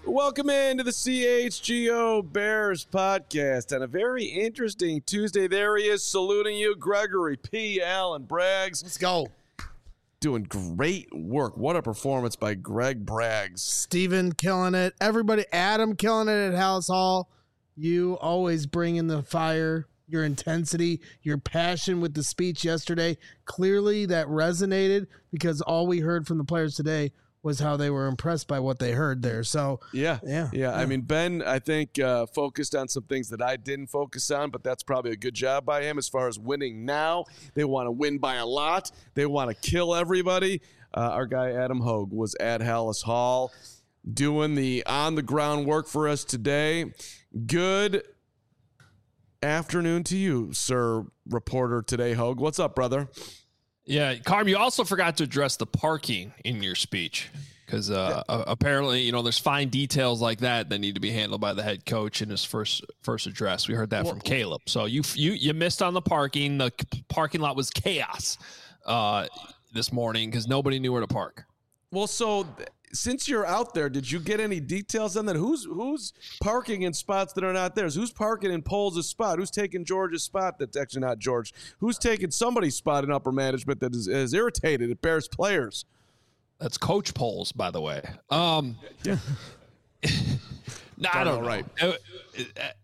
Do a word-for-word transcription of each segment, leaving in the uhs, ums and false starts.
Welcome into the C H G O Bears podcast on a very interesting Tuesday. There he is, saluting you, Gregory P. Allen Braggs. Let's go. Doing great work. What a performance by Greg Braggs. Steven killing it. Everybody, Adam killing it at House Hall. You always bring in the fire, your intensity, your passion with the speech yesterday. Clearly that resonated because all we heard from the players today was how they were impressed by what they heard there. So yeah, yeah, yeah. yeah. I mean, Ben, I think uh, focused on some things that I didn't focus on, but that's probably a good job by him as far as winning now. They want to win by a lot. They want to kill everybody. Uh, our guy Adam Hogue was at Hallis Hall doing the on-the-ground work for us today. Good afternoon to you, sir, reporter today, Hogue. What's up, brother? Yeah, Carm, you also forgot to address the parking in your speech because uh, yeah. uh, apparently, you know, there's fine details like that that need to be handled by the head coach in his first first address. We heard that well, from Caleb. So you you you missed on the parking. The parking lot was chaos uh, this morning because nobody knew where to park. Well, so th- since you're out there, did you get any details on that? Who's who's parking in spots that are not theirs? Who's parking in Poles' spot? Who's taking George's spot? That's actually not George. Who's taking somebody's spot in upper management that is, is irritated at Bears players? That's Coach Poles, by the way. Um, yeah. no, I don't know. Right. Uh, uh,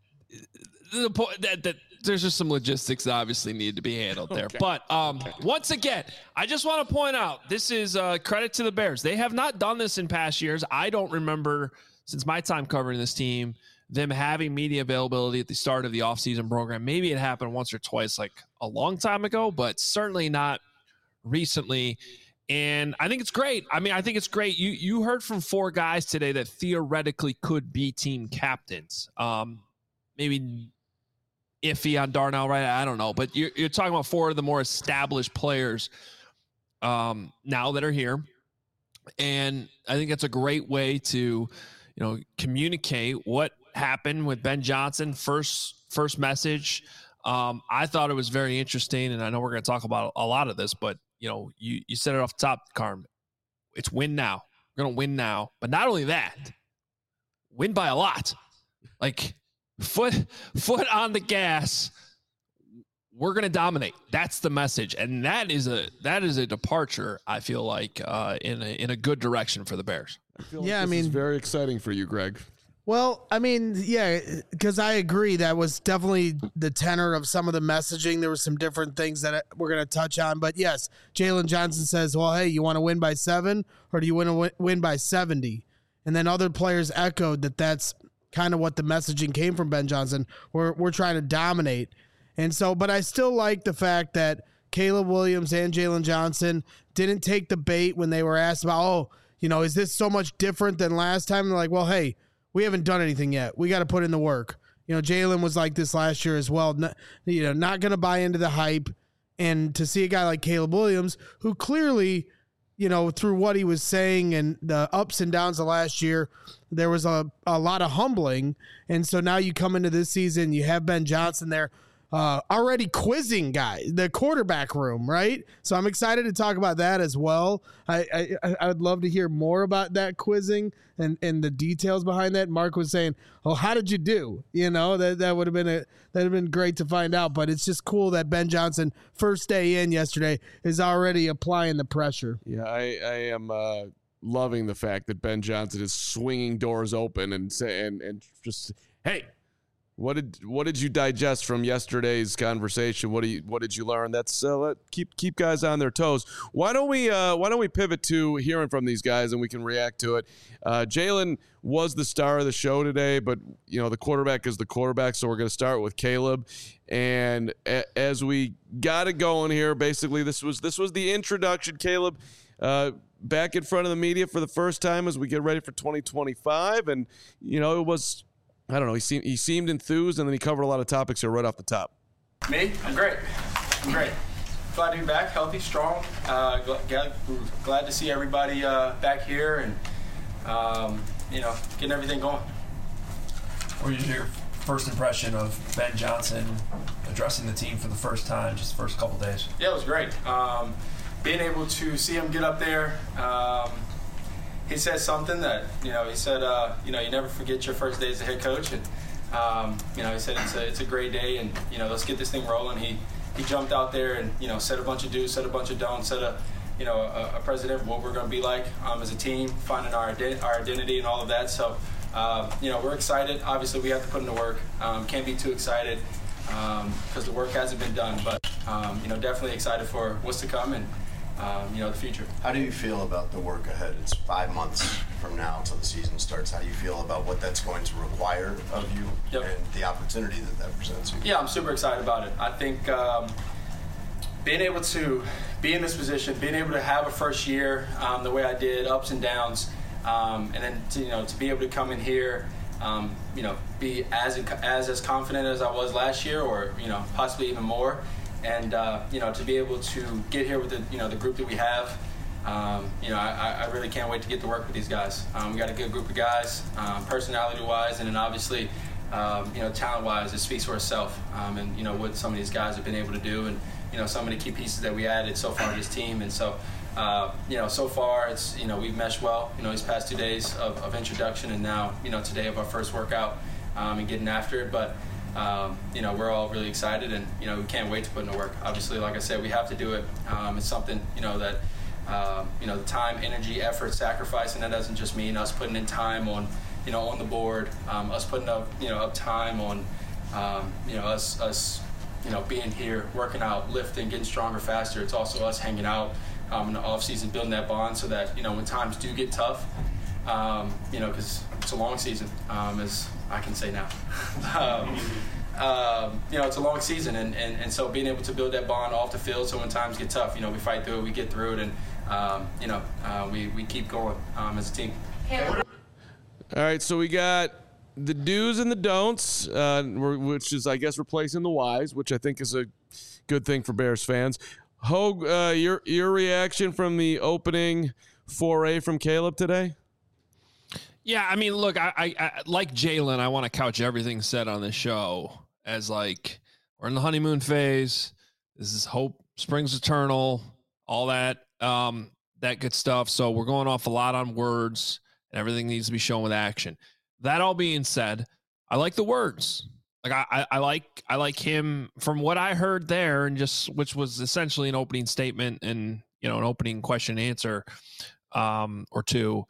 the point that that. There's just some logistics that obviously need to be handled there. Okay. But um, okay. once again, I just want to point out, this is uh, credit to the Bears. They have not done this in past years. I don't remember, since my time covering this team, them having media availability at the start of the offseason program. Maybe it happened once or twice, like a long time ago, but certainly not recently. And I think it's great. I mean, I think it's great. You you heard from four guys today that theoretically could be team captains. Um, maybe iffy on Darnell, right? I don't know. But you're, you're talking about four of the more established players um, now that are here. And I think that's a great way to, you know, communicate what happened with Ben Johnson. First, first message. Um, I thought it was very interesting. And I know we're going to talk about a lot of this, but, you know, you, you said it off the top, Carm. It's win now. We're going to win now. But not only that, win by a lot. Like, Foot foot on the gas. We're going to dominate. That's the message. And that is a that is a departure, I feel like, uh, in, a, in a good direction for the Bears. I feel like yeah, this I mean, is very exciting for you, Greg. Well, I mean, yeah, because I agree. That was definitely the tenor of some of the messaging. There were some different things that we're going to touch on. But, yes, Jalen Johnson says, well, hey, you want to win by seven or do you want to win by seventy? And then other players echoed that that's kind of what the messaging came from Ben Johnson. We're we're trying to dominate. And so, but I still like the fact that Caleb Williams and Jalen Johnson didn't take the bait when they were asked about, oh, you know, is this so much different than last time? They're like, well, hey, we haven't done anything yet. We got to put in the work. You know, Jalen was like this last year as well. Not, you know, not going to buy into the hype. And to see a guy like Caleb Williams, who clearly, you know, through what he was saying and the ups and downs of last year, there was a, a lot of humbling. And so now you come into this season, you have Ben Johnson there uh, already quizzing guys, the quarterback room, right? So I'm excited to talk about that as well. I, I, I would love to hear more about that quizzing and, and the details behind that. Mark was saying, oh, how did you do? You know, that, that would have been a, that would have been great to find out, but it's just cool that Ben Johnson, first day in yesterday, is already applying the pressure. Yeah, I, I am uh, loving the fact that Ben Johnson is swinging doors open and say, and, and just, hey, What did what did you digest from yesterday's conversation? What do you what did you learn? That's uh, let keep keep guys on their toes. Why don't we uh, why don't we pivot to hearing from these guys and we can react to it. Uh, Jalen was the star of the show today, but you know the quarterback is the quarterback, so we're going to start with Caleb. And a, as we got it going here, basically this was this was the introduction. Caleb uh, back in front of the media for the first time as we get ready for twenty twenty-five, and you know it was. I don't know. He seemed he seemed enthused, and then he covered a lot of topics here right off the top. Me? I'm great. I'm great. Glad to be back, healthy, strong. Uh, glad, glad to see everybody uh, back here, and um, you know, getting everything going. What was your first impression of Ben Johnson addressing the team for the first time, just the first couple days? Yeah, it was great. Um, being able to see him get up there. Um, he said something that, you know, he said, uh, you know, you never forget your first day as a head coach. And, um, you know, he said it's a, it's a great day and, you know, let's get this thing rolling. He he jumped out there and, you know, said a bunch of do's, said a bunch of don'ts, said a, you know, a, a president of what we're going to be like um, as a team, finding our, ident- our identity and all of that. So, uh, you know, we're excited. Obviously, we have to put in the work. Um, can't be too excited because um, the work hasn't been done. But, um, you know, definitely excited for what's to come and, um, you know, the future. How do you feel about the work ahead? It's five months from now until the season starts. How do you feel about what that's going to require of you yep. and the opportunity that that presents you? Yeah, I'm super excited about it. I think um, being able to be in this position, being able to have a first year um, the way I did, ups and downs, um, and then to, you know, to be able to come in here, um, you know, be as as as confident as I was last year, or you know, possibly even more. And, uh, you know, to be able to get here with the, you know, the group that we have, um, you know, I, I really can't wait to get to work with these guys. Um, we got a good group of guys, um, personality-wise, and then obviously, um, you know, talent-wise, it speaks for itself. Um, and, you know, what some of these guys have been able to do and, you know, some of the key pieces that we added so far to this team. And so, uh, you know, so far, it's, you know, we've meshed well, you know, these past two days of, of introduction and now, you know, today of our first workout um, and getting after it. But, Um, you know, we're all really excited and, you know, we can't wait to put in the work. Obviously, like I said, we have to do it. Um, it's something, you know, that, um, you know, the time, energy, effort, sacrifice, and that doesn't just mean us putting in time on, you know, on the board, um, us putting up, you know, up time on, um, you know, us, us, you know, being here, working out, lifting, getting stronger, faster. It's also us hanging out um, in the off season, building that bond so that, you know, when times do get tough, um, you know, because it's a long season, um, as I can say now. um, um, you know, it's a long season, and, and, and so being able to build that bond off the field so when times get tough, you know, we fight through it, we get through it, and, um, you know, uh, we, we keep going um, as a team. All right, so we got the do's and the don'ts, uh, which is, I guess, replacing the whys, which I think is a good thing for Bears fans. Hogue, uh, your, your reaction from the opening foray from Caleb today? Yeah, I mean, look, I, I, I like Jalen, I want to couch everything said on this show as like we're in the honeymoon phase. This is hope springs eternal, all that, um, that good stuff. So we're going off a lot on words, and everything needs to be shown with action. That all being said, I like the words. Like I, I, I like, I like him from what I heard there, and just which was essentially an opening statement and you know an opening question and answer, um, or two.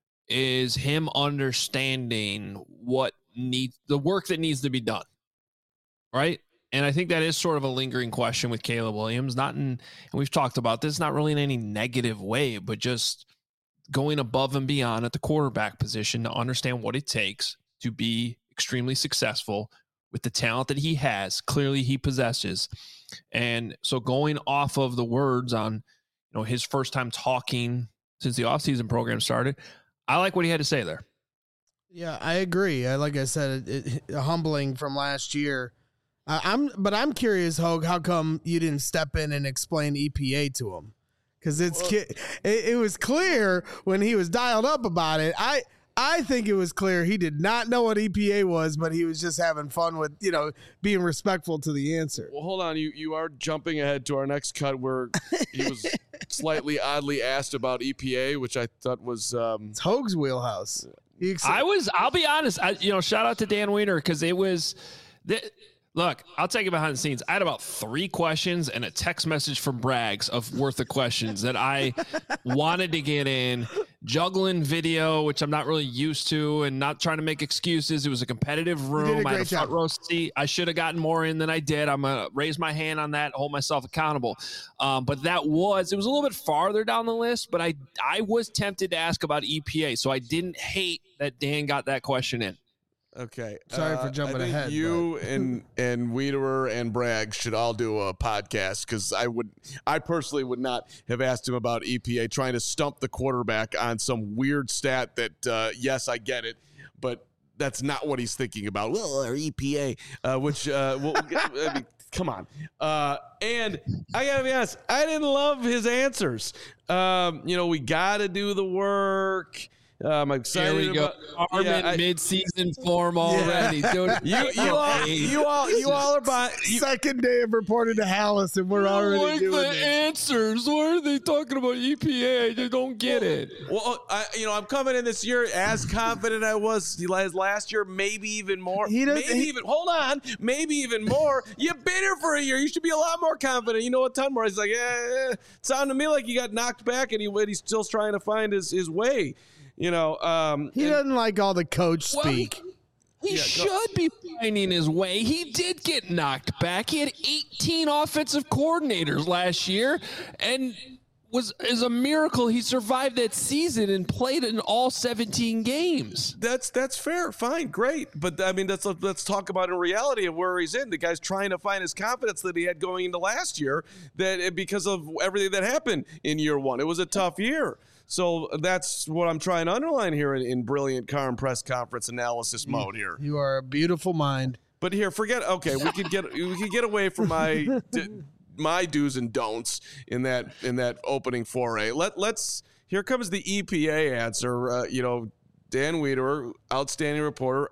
Is him understanding what needs the work that needs to be done. Right. And I think that is sort of a lingering question with Caleb Williams, not in, and we've talked about this, not really in any negative way, but just going above and beyond at the quarterback position to understand what it takes to be extremely successful with the talent that he has. Clearly he possesses. And so going off of the words on, you know, his first time talking since the offseason program started, I like what he had to say there. Yeah, I agree. I, like I said, it, it, humbling from last year. Uh, I'm, but I'm curious, Hogue, how come you didn't step in and explain E P A to him? Because it's well, it, it was clear when he was dialed up about it. I I think it was clear he did not know what E P A was, but he was just having fun with, you know, being respectful to the answer. Well, hold on. You you are jumping ahead to our next cut where he was slightly oddly asked about E P A, which I thought was um, it's Hogue's wheelhouse. Ex- I was. I'll be honest. I, you know, shout out to Dan Weiner because it was. Th- Look, I'll take you behind the scenes. I had about three questions and a text message from Braggs of worth of questions that I wanted to get in. Juggling video, which I'm not really used to, and not trying to make excuses. It was a competitive room. I had a front row seat. I should have gotten more in than I did. I'm going to raise my hand on that, hold myself accountable. Um, but that was, it was a little bit farther down the list, but I, I was tempted to ask about E P A, so I didn't hate that Dan got that question in. Okay. Sorry uh, for jumping I think ahead. You but. and and Wiederer and Bragg should all do a podcast because I would, I personally would not have asked him about E P A, trying to stump the quarterback on some weird stat that, uh, yes, I get it, but that's not what he's thinking about. Well, our E P A, uh, which, uh, well, I mean, come on. Uh, and I gotta be honest, I didn't love his answers. Um, you know, we got to do the work. Uh, I'm excited. Here we go. About, Armin yeah, I, mid-season form already. Yeah. Dude, you, you, all, you all, you all are by. You, Second day of reporting to Hallis, and we're already like doing the this. answers. Why are they talking about E P A? I don't get it. Well, I, you know, I'm coming in this year as confident I was as last year, maybe even more. He does- maybe he- even hold on, maybe even more. You've been here for a year. You should be a lot more confident. You know a ton more. He's like, yeah, it sounded to me like he got knocked back, and he he's still trying to find his his way. You know, um, He and- doesn't like all the coach Well, speak. He Yeah, should be finding his way. He did get knocked back. He had eighteen offensive coordinators last year, and was is a miracle he survived that season and played in all seventeen games. That's that's fair, fine, great, but I mean, let's let's talk about in reality of where he's in. The guy's trying to find his confidence that he had going into last year, that because of everything that happened in year one, it was a tough year. So that's what I'm trying to underline here in, in brilliant Carm press conference analysis mode here. You are a beautiful mind. But here, forget. Okay, we could get we could get away from my d- my do's and don'ts in that in that opening foray. Let let's. Here comes the E P A answer. Uh, you know, Dan Wiederer, outstanding reporter,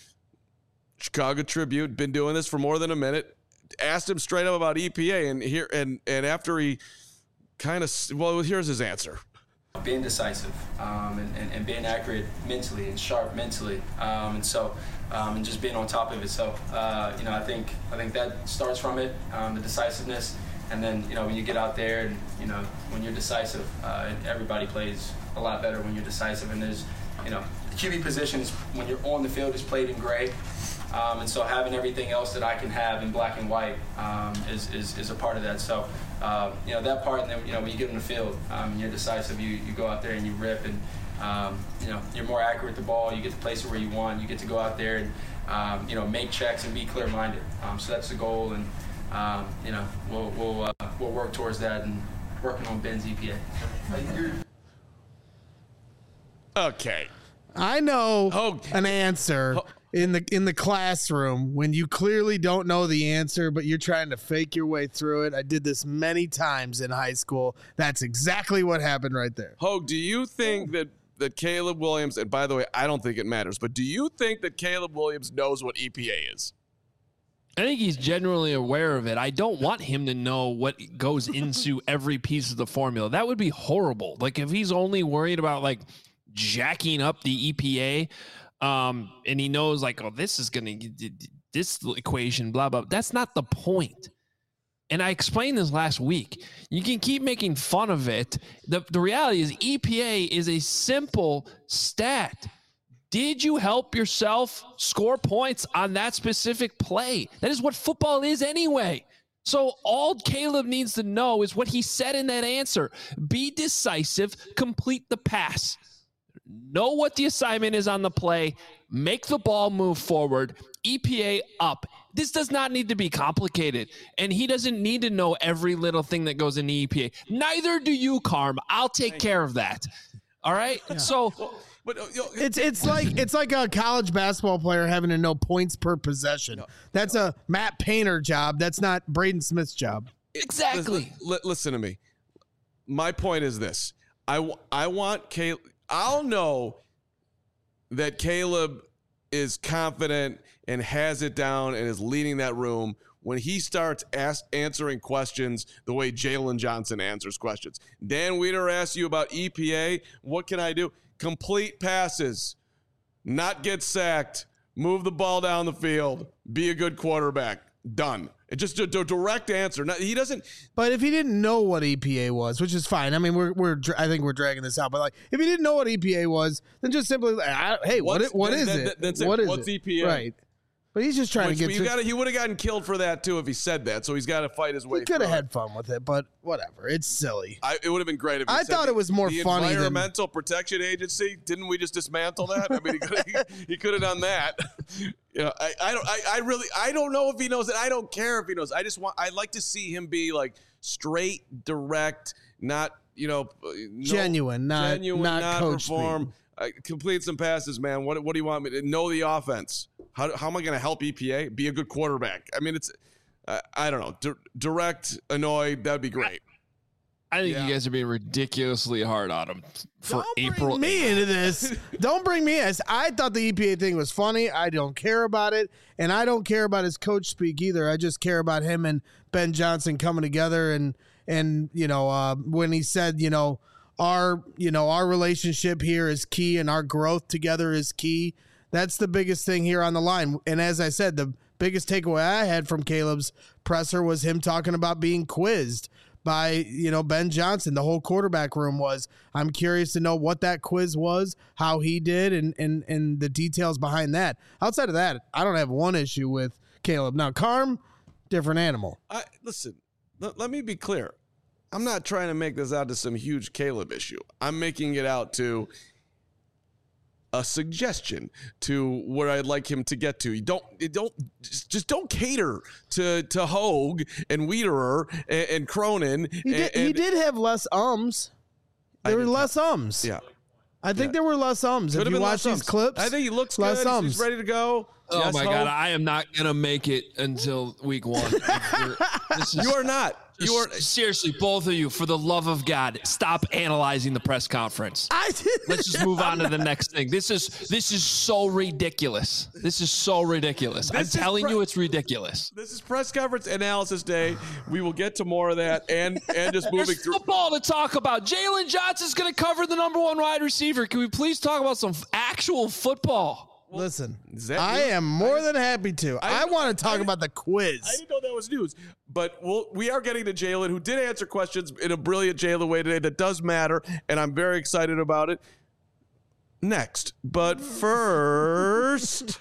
Chicago Tribune, been doing this for more than a minute. Asked him straight up about E P A, and here and and after he kind of well, here's his answer. Being decisive um, and, and, and being accurate mentally and sharp mentally, um, and so um, and just being on top of it. So uh, you know, I think I think that starts from it, um, the decisiveness, and then you know when you get out there and you know when you're decisive, uh, everybody plays a lot better when you're decisive. And there's you know the Q B position is when you're on the field is played in gray. Um, and so having everything else that I can have in black and white um, is, is, is a part of that. So, uh, you know, that part, and then, you know, when you get on the field um, and you're decisive, you, you go out there and you rip and, um, you know, you're more accurate with the ball. You get to place it where you want. You get to go out there and, um, you know, make checks and be clear-minded. Um, so that's the goal. And, um, you know, we'll, we'll, uh, we'll work towards that and working on Ben's E P A. Okay. I know Oh. an answer in the in the classroom when you clearly don't know the answer, but you're trying to fake your way through it. I did this many times in high school. That's exactly what happened right there. Hogue, do you think that that Caleb Williams, and by the way, I don't think it matters, but do you think that Caleb Williams knows what E P A is? I think he's genuinely aware of it. I don't want him to know what goes into every piece of the formula. That would be horrible. Like if he's only worried about like jacking up the E P A, um, and he knows like, oh, this is going to this equation, blah, blah. That's not the point. And I explained this last week. You can keep making fun of it. The, the reality is E P A is a simple stat. Did you help yourself score points on that specific play? That is what football is anyway. So all Caleb needs to know is what he said in that answer. Be decisive, complete the pass. Know what the assignment is on the play. Make the ball move forward. E P A up. This does not need to be complicated. And he doesn't need to know every little thing that goes in the E P A. Neither do you, Carm. I'll take care of that. All right? Yeah. So... But, uh, you know, It's it's like it's like a college basketball player having to know points per possession. That's a Matt Painter job. That's not Braden Smith's job. Exactly. Listen, listen to me. My point is this. I, I want Caleb. I'll know that Caleb is confident and has it down and is leading that room when he starts ask, answering questions the way Jalen Johnson answers questions. Dan Wiederer asks you about E P A. What can I do? Complete passes, not get sacked, move the ball down the field, be a good quarterback. Done. It's just a, a direct answer. Now, he doesn't. But if he didn't know what E P A was, which is fine. I mean, we're we're I think we're dragging this out. But like, if he didn't know what E P A was, then just simply, I, hey, what What's- it, what that- is that- it? that's it. What is What's it? E P A? Right. But he's just trying Which, to get you to. gotta, he would have gotten killed for that too if he said that. So he's got to fight his way. He could through have it. had fun with it, but whatever. It's silly. I, it would have been great if he I said thought the- it was more the funny than- Environmental Protection Agency. Didn't we just dismantle that? I mean, he could he could have done that. You know, I, I don't. I, I really. I don't know if he knows it. I don't care if he knows. I just want. I'd like to see him be like straight, direct, not you know, no, Genuine, not genuine, not, not coach perform. speak. Uh, complete some passes, man. What What do you want me to know? The offense. How How am I going to help E P A be a good quarterback? I mean, it's. Uh, I don't know. Di- direct, annoyed. That'd be great. I think Yeah. you guys are being ridiculously hard on him for Don't April. bring me into this. Don't bring me in. I thought the E P A thing was funny. I don't care about it, and I don't care about his coach speak either. I just care about him and Ben Johnson coming together, and and you know uh, when he said, you know, our you know our relationship here is key, and our growth together is key. That's the biggest thing here on the line. And as I said, the biggest takeaway I had from Caleb's presser was him talking about being quizzed by, you know, Ben Johnson. The whole quarterback room was. I'm curious to know what that quiz was, how he did, and and and the details behind that. Outside of that, I don't have one issue with Caleb. Now, Carm, different animal. I listen. Let, let me be clear. I'm not trying to make this out to some huge Caleb issue. I'm making it out to a suggestion to where I'd like him to get to. You don't, you don't, just, just don't cater to to Hogue and Wiederer and, and Cronin. He did, and, he did have less ums. I There were did less ums. Yeah. I think Yeah. there were less ums. Could If have you been watch less these ums. clips, I think he looks less good. ums. He's ready to go. Oh Yes, my Hogue. God, I am not gonna make it until week one. This is, You are not. You are. seriously, both of you, for the love of God, stop analyzing the press conference. I did. Let's just move on to the next thing. This is this is so ridiculous. This is so ridiculous. This is I'm telling pre- you, it's ridiculous. This is press conference analysis day. We will get to more of that and and just moving There's through. football to talk about. Jalen Johnson's going to cover the number one wide receiver. Can we please talk about some f- actual football? Listen, Is that I news? am more than happy to. I- I, want to talk I- about the quiz. I didn't know that was news, but we'll, we are getting to Jalen, who did answer questions in a brilliant Jalen way today that does matter, and I'm very excited about it. Next, but first,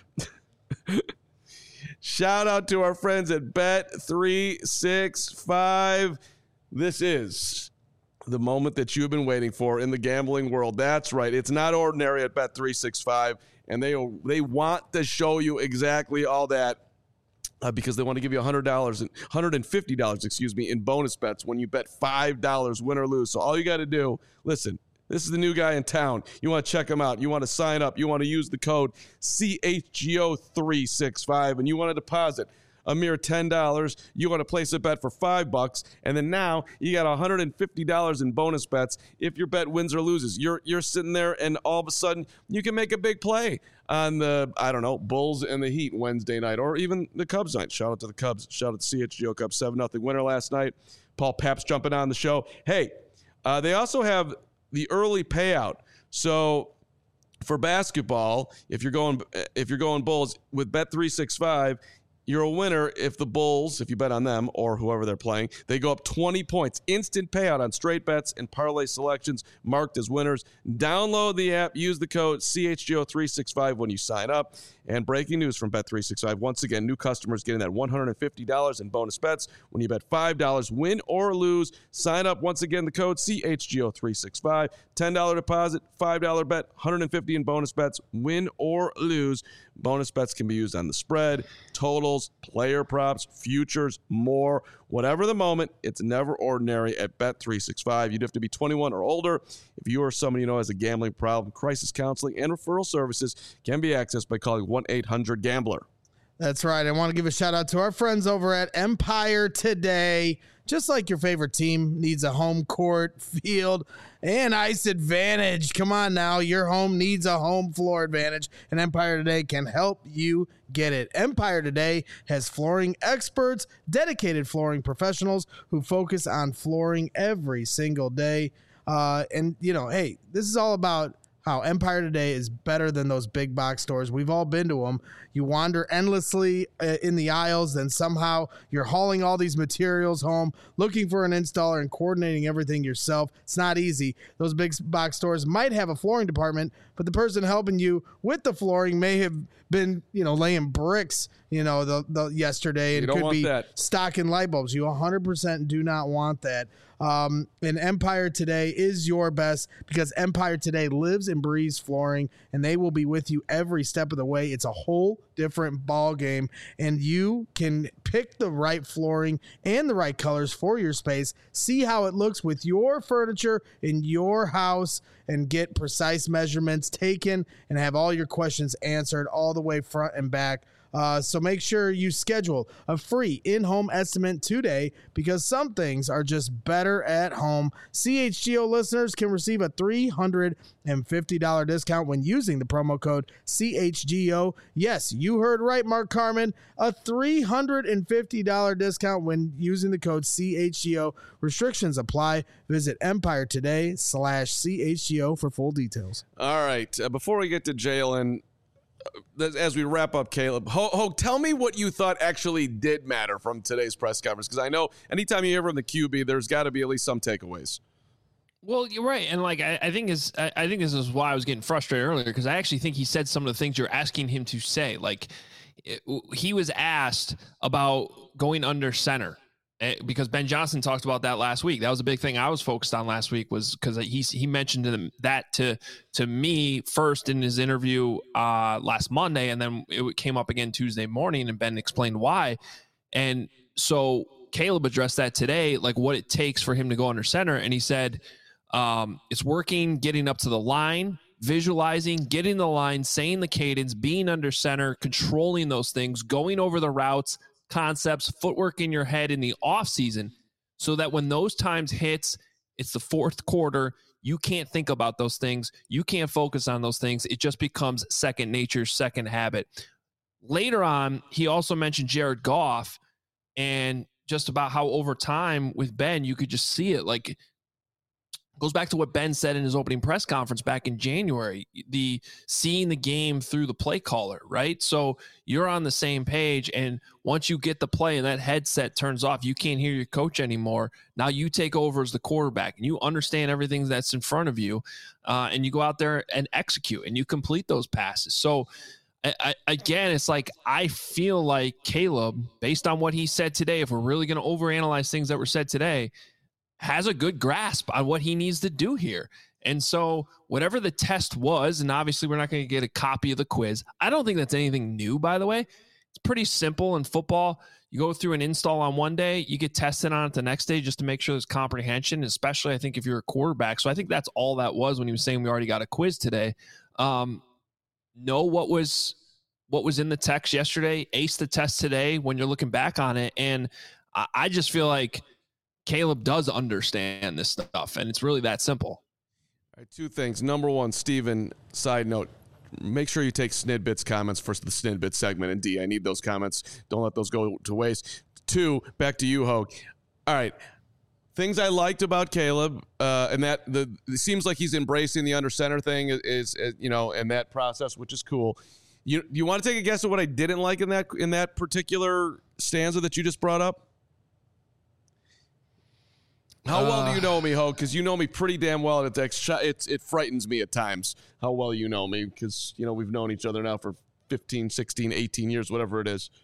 shout out to our friends at Bet three sixty-five. This is the moment that you've been waiting for in the gambling world. That's right. It's not ordinary at Bet three sixty-five, and they they want to show you exactly all that uh, because they want to give you one hundred dollars and one hundred fifty dollars, excuse me, in bonus bets when you bet five dollars win or lose. So all you got to do, listen, this is the new guy in town. You want to check him out. You want to sign up. You want to use the code C H G O three sixty-five, and you want to deposit a mere ten dollars. You want to place a bet for five bucks, and then now you got one hundred fifty dollars in bonus bets if your bet wins or loses. You're you're sitting there, and all of a sudden you can make a big play on the, I don't know, Bulls and the Heat Wednesday night, or even the Cubs night. Shout out to the Cubs. Shout out to C H G O Cubs, seven nothing winner last night. Paul Paps jumping on the show. Hey, uh, they also have the early payout. So for basketball, if you're going if you're going Bulls with Bet three sixty-five, you're a winner if the Bulls, if you bet on them or whoever they're playing, they go up twenty points. Instant payout on straight bets and parlay selections marked as winners. Download the app. Use the code C H G O three sixty-five when you sign up. And breaking news from Bet three sixty-five. Once again, new customers getting that one hundred fifty dollars in bonus bets when you bet five dollars, win or lose. Sign up. Once again, the code C H G O three sixty-five. ten dollars deposit, five dollars bet, one hundred fifty dollars in bonus bets, win or lose. Bonus bets can be used on the spread, totals, player props, futures, more. Whatever the moment, it's never ordinary at Bet three sixty-five. You'd have to be twenty-one or older. If you or someone you know has a gambling problem, crisis counseling and referral services can be accessed by calling one eight hundred gambler. That's right. I want to give a shout out to our friends over at Empire Today. Just like your favorite team needs a home court, field, and ice advantage. Come on now. Your home needs a home floor advantage, and Empire Today can help you get it. Empire Today has flooring experts, dedicated flooring professionals who focus on flooring every single day. Uh, and, you know, hey, this is all about how Empire Today is better than those big box stores. We've all been to them. You wander endlessly uh, in the aisles, then somehow you're hauling all these materials home, looking for an installer and coordinating everything yourself. It's not easy. Those big box stores might have a flooring department, but the person helping you with the flooring may have been, you know, laying bricks, you know, the, the yesterday, and You don't could want be that. stocking light bulbs. You one hundred percent do not want that. Um, and Empire Today is your best because Empire Today lives and breathes flooring, and they will be with you every step of the way. It's a whole different ball game, and you can pick the right flooring and the right colors for your space. See how it looks with your furniture in your house and get precise measurements taken and have all your questions answered all the way front and back. Uh, so make sure you schedule a free in-home estimate today because some things are just better at home. C H G O listeners can receive a three hundred fifty dollars discount when using the promo code C H G O. Yes, you heard right, Mark Carman. A three hundred fifty dollars discount when using the code C H G O. Restrictions apply. Visit Empire Today slash C H G O for full details. All right. Uh, before we get to Jalen, as we wrap up, Caleb, Ho, Ho, tell me what you thought actually did matter from today's press conference, because I know anytime you hear from the Q B, there's got to be at least some takeaways. Well, you're right, and like I, I think is I, I think this is why I was getting frustrated earlier, because I actually think he said some of the things you're asking him to say. Like it, he was asked about going under center. Because Ben Johnson talked about that last week. That was a big thing I was focused on last week, was because he he mentioned them, that to to me first in his interview uh, last Monday, and then it came up again Tuesday morning, and Ben explained why. And so Caleb addressed that today, like what it takes for him to go under center, and he said um, it's working, getting up to the line, visualizing, getting the line, saying the cadence, being under center, controlling those things, going over the routes, concepts, footwork in your head in the off season, so that when those times hits, it's the fourth quarter, you can't think about those things. You can't focus on those things. It just becomes second nature, second habit. Later on, he also mentioned Jared Goff and just about how over time with Ben, you could just see it. Like, goes back to what Ben said in his opening press conference back in January, the seeing the game through the play caller, right? So you're on the same page, and once you get the play and that headset turns off, you can't hear your coach anymore. Now you take over as the quarterback, and you understand everything that's in front of you, uh, and you go out there and execute, and you complete those passes. So I, I, again, it's like I feel like Caleb, based on what he said today, if we're really going to overanalyze things that were said today, has a good grasp on what he needs to do here. And so whatever the test was, and obviously we're not going to get a copy of the quiz. I don't think that's anything new, by the way. It's pretty simple in football. You go through an install on one day, you get tested on it the next day just to make sure there's comprehension, especially I think if you're a quarterback. So I think that's all that was when he was saying we already got a quiz today. Um, know what was what was in the text yesterday, ace the test today when you're looking back on it. And I, I just feel like Caleb does understand this stuff, and it's really that simple. All right, two things. Number one, Steven, side note, make sure you take Snidbit's comments for the Snidbit segment. And D, I need those comments. Don't let those go to waste. Two, back to you, Hogue. All right, things I liked about Caleb, uh, and that the it seems like he's embracing the under center thing is, is you know, and that process, which is cool. You you want to take a guess at what I didn't like in that in that particular stanza that you just brought up? How well uh, do you know me, Ho? Because you know me pretty damn well. It, it, it frightens me at times how well you know me, because, you know, we've known each other now for fifteen, sixteen, eighteen years, whatever it is.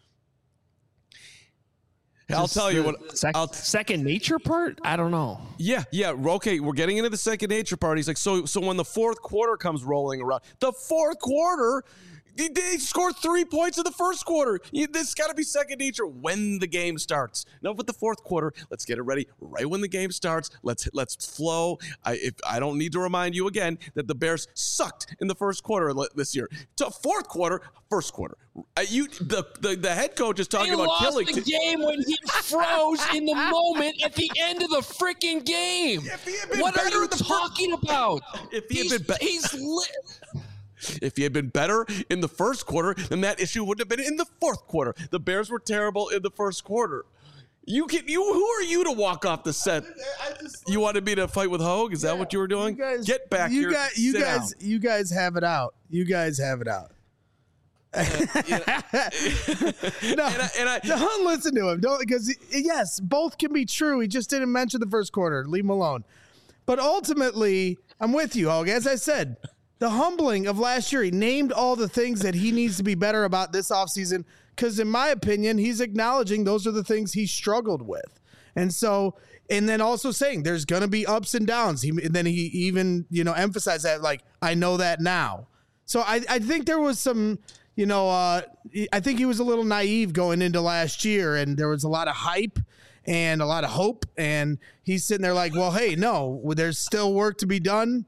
I'll tell you what. Sec- I'll, second nature part? I don't know. Yeah, yeah. Okay, we're getting into the second nature part. He's like, so, so when the fourth quarter comes rolling around, the fourth quarter, they scored three points in the first quarter. This got to be second nature when the game starts. Enough with the fourth quarter. Let's get it ready right when the game starts. Let's let's flow. I if I don't need to remind you again that the Bears sucked in the first quarter this year. To fourth quarter, first quarter. Uh, you the, the the head coach is talking they about lost killing the game when he froze in the moment at the end of the freaking game. What are you talking fir- about? If he he's, had been be- he's lit. If he had been better in the first quarter, then that issue wouldn't have been in the fourth quarter. The Bears were terrible in the first quarter. You can you who are you to walk off the set? I just, you wanted me to fight with Hogue? Is yeah, that what you were doing? You guys, Get back you here. Guys, you Sit guys, down. you guys have it out. You guys have it out. Uh, you know, no, and I, and I, don't listen to him. Don't because yes, both can be true. He just didn't mention the first quarter. Leave him alone. But ultimately, I'm with you, Hogue. As I said, the humbling of last year, he named all the things that he needs to be better about this offseason because, in my opinion, he's acknowledging those are the things he struggled with. And so, and then also saying there's going to be ups and downs. He, and then he even, you know, emphasized that, like, I know that now. So I, I think there was some, you know, uh, I think he was a little naive going into last year, and there was a lot of hype and a lot of hope. And he's sitting there like, well, hey, no, there's still work to be done.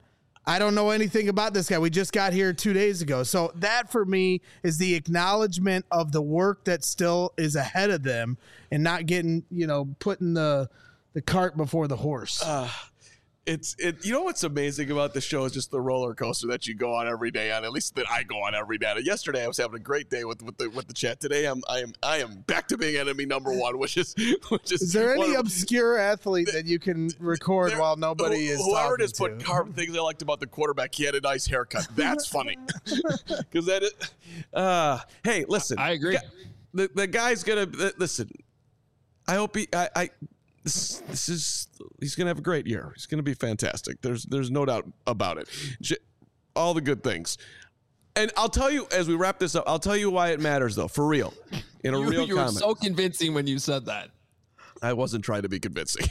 I don't know anything about this guy. We just got here two days ago. So that for me is the acknowledgement of the work that still is ahead of them and not getting, you know, putting the the cart before the horse. Uh, it's it. You know what's amazing about the show is just the roller coaster that you go on every day on. At least that I go on every day. Yesterday I was having a great day with, with the with the chat. Today I'm I am I am back to being enemy number one, which is which is. Is there any of, obscure athlete that you can record there, while nobody who, is whoever talking just put to? carved things I liked about the quarterback? He had a nice haircut. That's funny because that. Is, uh, hey, listen. I agree. The the guy's gonna listen. I hope he. I. I This, this is he's gonna have a great year. He's gonna be fantastic. There's there's no doubt about it. J- all the good things. And I'll tell you as we wrap this up. I'll tell you why it matters though, for real. In a you, real you comment. were so convincing when you said that. I wasn't trying to be convincing.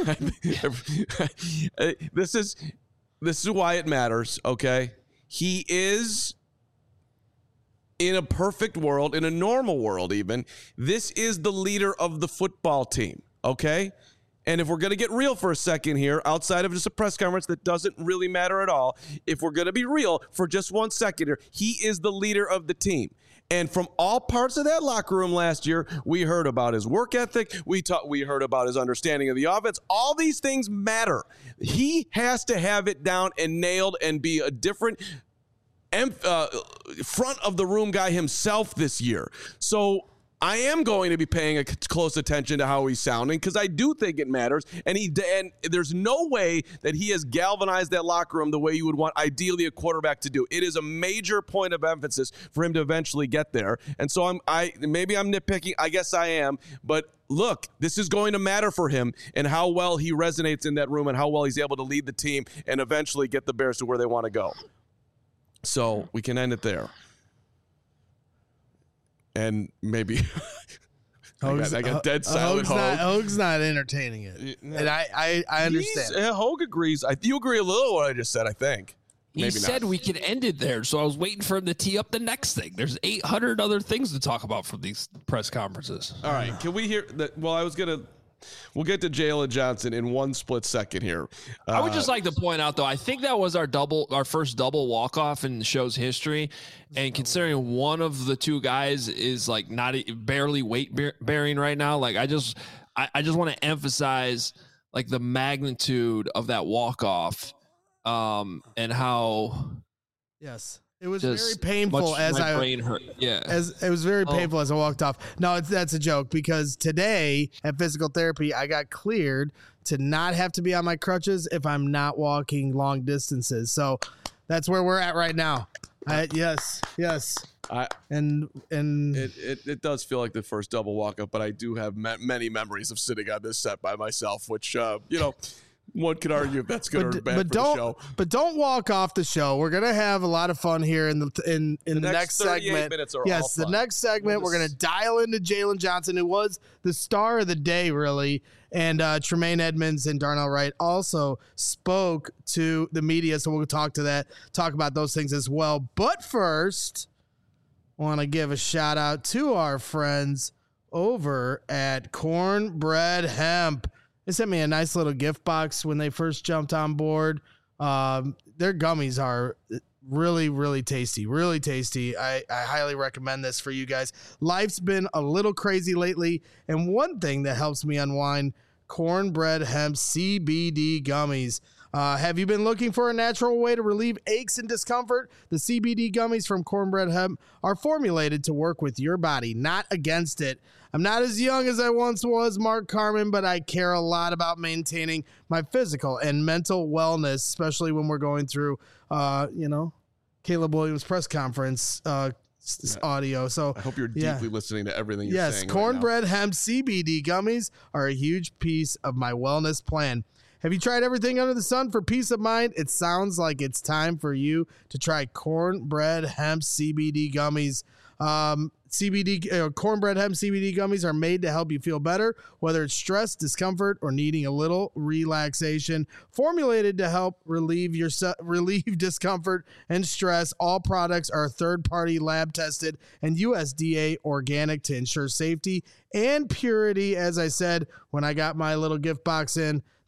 this is this is why it matters. Okay, he is. In a perfect world, in a normal world, even this is the leader of the football team. Okay. And if we're going to get real for a second here, outside of just a press conference that doesn't really matter at all, if we're going to be real for just one second here, he is the leader of the team. And from all parts of that locker room last year, we heard about his work ethic. We taught, we heard about his understanding of the offense. All these things matter. He has to have it down and nailed and be a different uh, front of the room guy himself this year. So I am going to be paying a close attention to how he's sounding because I do think it matters. And he and there's no way that he has galvanized that locker room the way you would want ideally a quarterback to do. It is a major point of emphasis for him to eventually get there. And so I'm I maybe I'm nitpicking. I guess I am. But look, this is going to matter for him and how well he resonates in that room and how well he's able to lead the team and eventually get the Bears to where they want to go. So we can end it there. And maybe I, got, I got dead silent. Hogue's not, Hogue's not entertaining it, and I, I, I understand. Uh, Hogue agrees. I, you agree a little what I just said, I think. He Maybe said not. we could end it there, so I was waiting for him to tee up the next thing. There's eight hundred other things to talk about from these press conferences. All right, can we hear that? Well, I was gonna. We'll get to Jalen Johnson in one split second here. Uh, I would just like to point out, though, I think that was our double, our first double walk off in the show's history, and considering one of the two guys is like not barely weight bearing right now, like I just, I, I just want to emphasize like the magnitude of that walk off, um, and how yes. It was just very painful much as my I brain hurt. Yeah, as it was very Oh. painful as I walked off. No, it's that's a joke because today at physical therapy I got cleared to not have to be on my crutches if I'm not walking long distances. So that's where we're at right now. I, yes, yes, I, and and it, it it does feel like the first double walk up, but I do have ma- many memories of sitting on this set by myself, which uh, you know. One could argue if that's good but, or bad but for don't, the show. But don't walk off the show. We're gonna have a lot of fun here in the in in the, The next, next thirty-eight segment. minutes are yes, all the fun. next segment We'll we're just- gonna dial into Jalen Johnson, who was the star of the day, really, and uh, Tremaine Edmonds and Darnell Wright also spoke to the media. So we'll talk to that, talk about those things as well. But first, I want to give a shout out to our friends over at Cornbread Hemp. They sent me a nice little gift box when they first jumped on board. Um, their gummies are really, really tasty, really tasty. I, I highly recommend this for you guys. Life's been a little crazy lately, and one thing that helps me unwind, Cornbread Hemp C B D gummies. Uh, have you been looking for a natural way to relieve aches and discomfort? The C B D gummies from Cornbread Hemp are formulated to work with your body, not against it. I'm not as young as I once was, Mark Carman, but I care a lot about maintaining my physical and mental wellness, especially when we're going through, uh, you know, Caleb Williams press conference uh, s- Yeah. audio. So I hope you're yeah. deeply listening to everything you're Yes, saying. Cornbread Hemp C B D gummies are a huge piece of my wellness plan. Have you tried everything under the sun for peace of mind? It sounds like it's time for you to try Cornbread Hemp C B D gummies. Um, C B D uh, Cornbread Hemp C B D gummies are made to help you feel better, whether it's stress, discomfort, or needing a little relaxation. Formulated to help relieve your relieve discomfort and stress. All products are third-party lab tested and U S D A organic to ensure safety and purity. As I said when I got my little gift box in,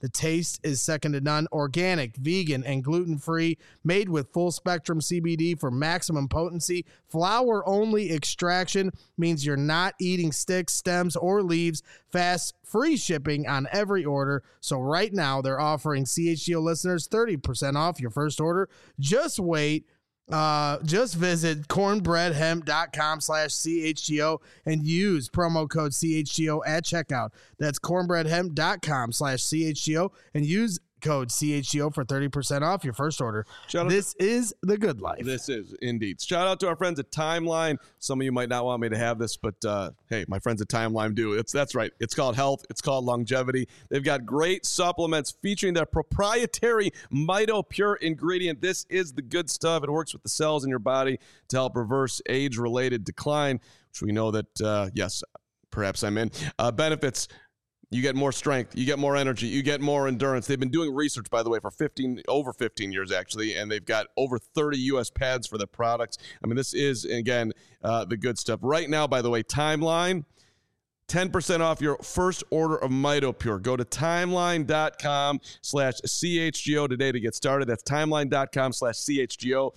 The taste is second to none. Organic, vegan, and gluten-free, made with full-spectrum C B D for maximum potency. Flower-only extraction means you're not eating sticks, stems, or leaves. Fast, free shipping on every order. So right now, they're offering C H G O listeners thirty percent off your first order. Just wait. Uh, just visit cornbreadhemp.com slash CHGO and use promo code C H G O at checkout. That's cornbreadhemp.com slash CHGO and use code C H G O for thirty percent off your first order. Shout this to, is the good life. This is indeed. Shout out to our friends at Timeline. Some of you might not want me to have this, but uh, hey, my friends at Timeline do. It's That's right. It's called health. It's called longevity. They've got great supplements featuring their proprietary Mito Pure ingredient. This is the good stuff. It works with the cells in your body to help reverse age-related decline, which we know that, uh, yes, perhaps I'm in. Uh, benefits. You get more strength, you get more energy, you get more endurance. They've been doing research, by the way, for fifteen over fifteen years, actually, and they've got over thirty U S patents for their products. I mean, this is, again, uh, the good stuff. Right now, by the way, Timeline, ten percent off your first order of Mito Pure. Go to timeline.com slash CHGO today to get started. That's timeline.com slash CHGO.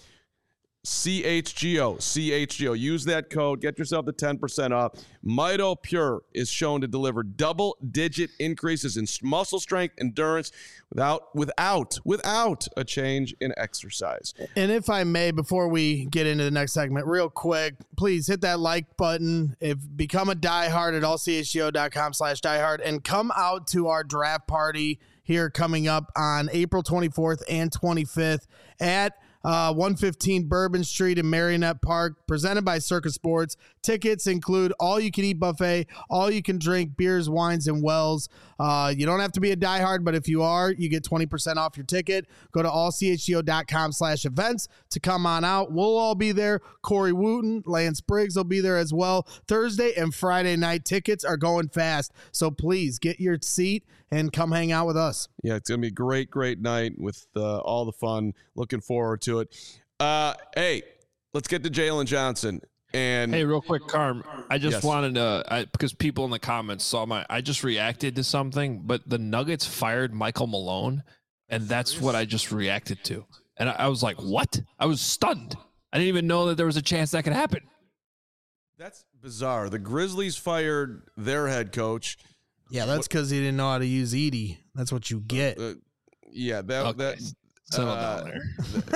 C H G O, C H G O. Use that code. Get yourself the ten percent off. Mito Pure is shown to deliver double-digit increases in muscle strength, endurance, without, without, without a change in exercise. And if I may, before we get into the next segment, real quick, please hit that like button. If become a diehard at all C H G O dot com slash diehard and come out to our draft party here coming up on April twenty-fourth and twenty-fifth at Uh, one fifteen Bourbon Street in Marionette Park, presented by Circus Sports. Tickets include all-you-can-eat buffet, all-you-can-drink beers, wines, and wells. Uh, you don't have to be a diehard, but if you are, you get twenty percent off your ticket. Go to all C H G O dot com slash events to come on out. We'll all be there. Corey Wooten, Lance Briggs will be there as well. Thursday and Friday night tickets are going fast, so please get your seat and come hang out with us. Yeah, it's going to be a great, great night with uh, all the fun. Looking forward to it. Uh, hey, let's get to Jalen Johnson. And hey, real quick, Carm, I just yes. wanted to, I, because people in the comments saw my, I just reacted to something, but the Nuggets fired Michael Malone, and that's what I just reacted to. And I, I was like, what? I was stunned. I didn't even know that there was a chance that could happen. That's bizarre. The Grizzlies fired their head coach. Yeah, that's because he didn't know how to use Edie. That's what you get. Uh, yeah, that Okay. that. Settle uh, down there.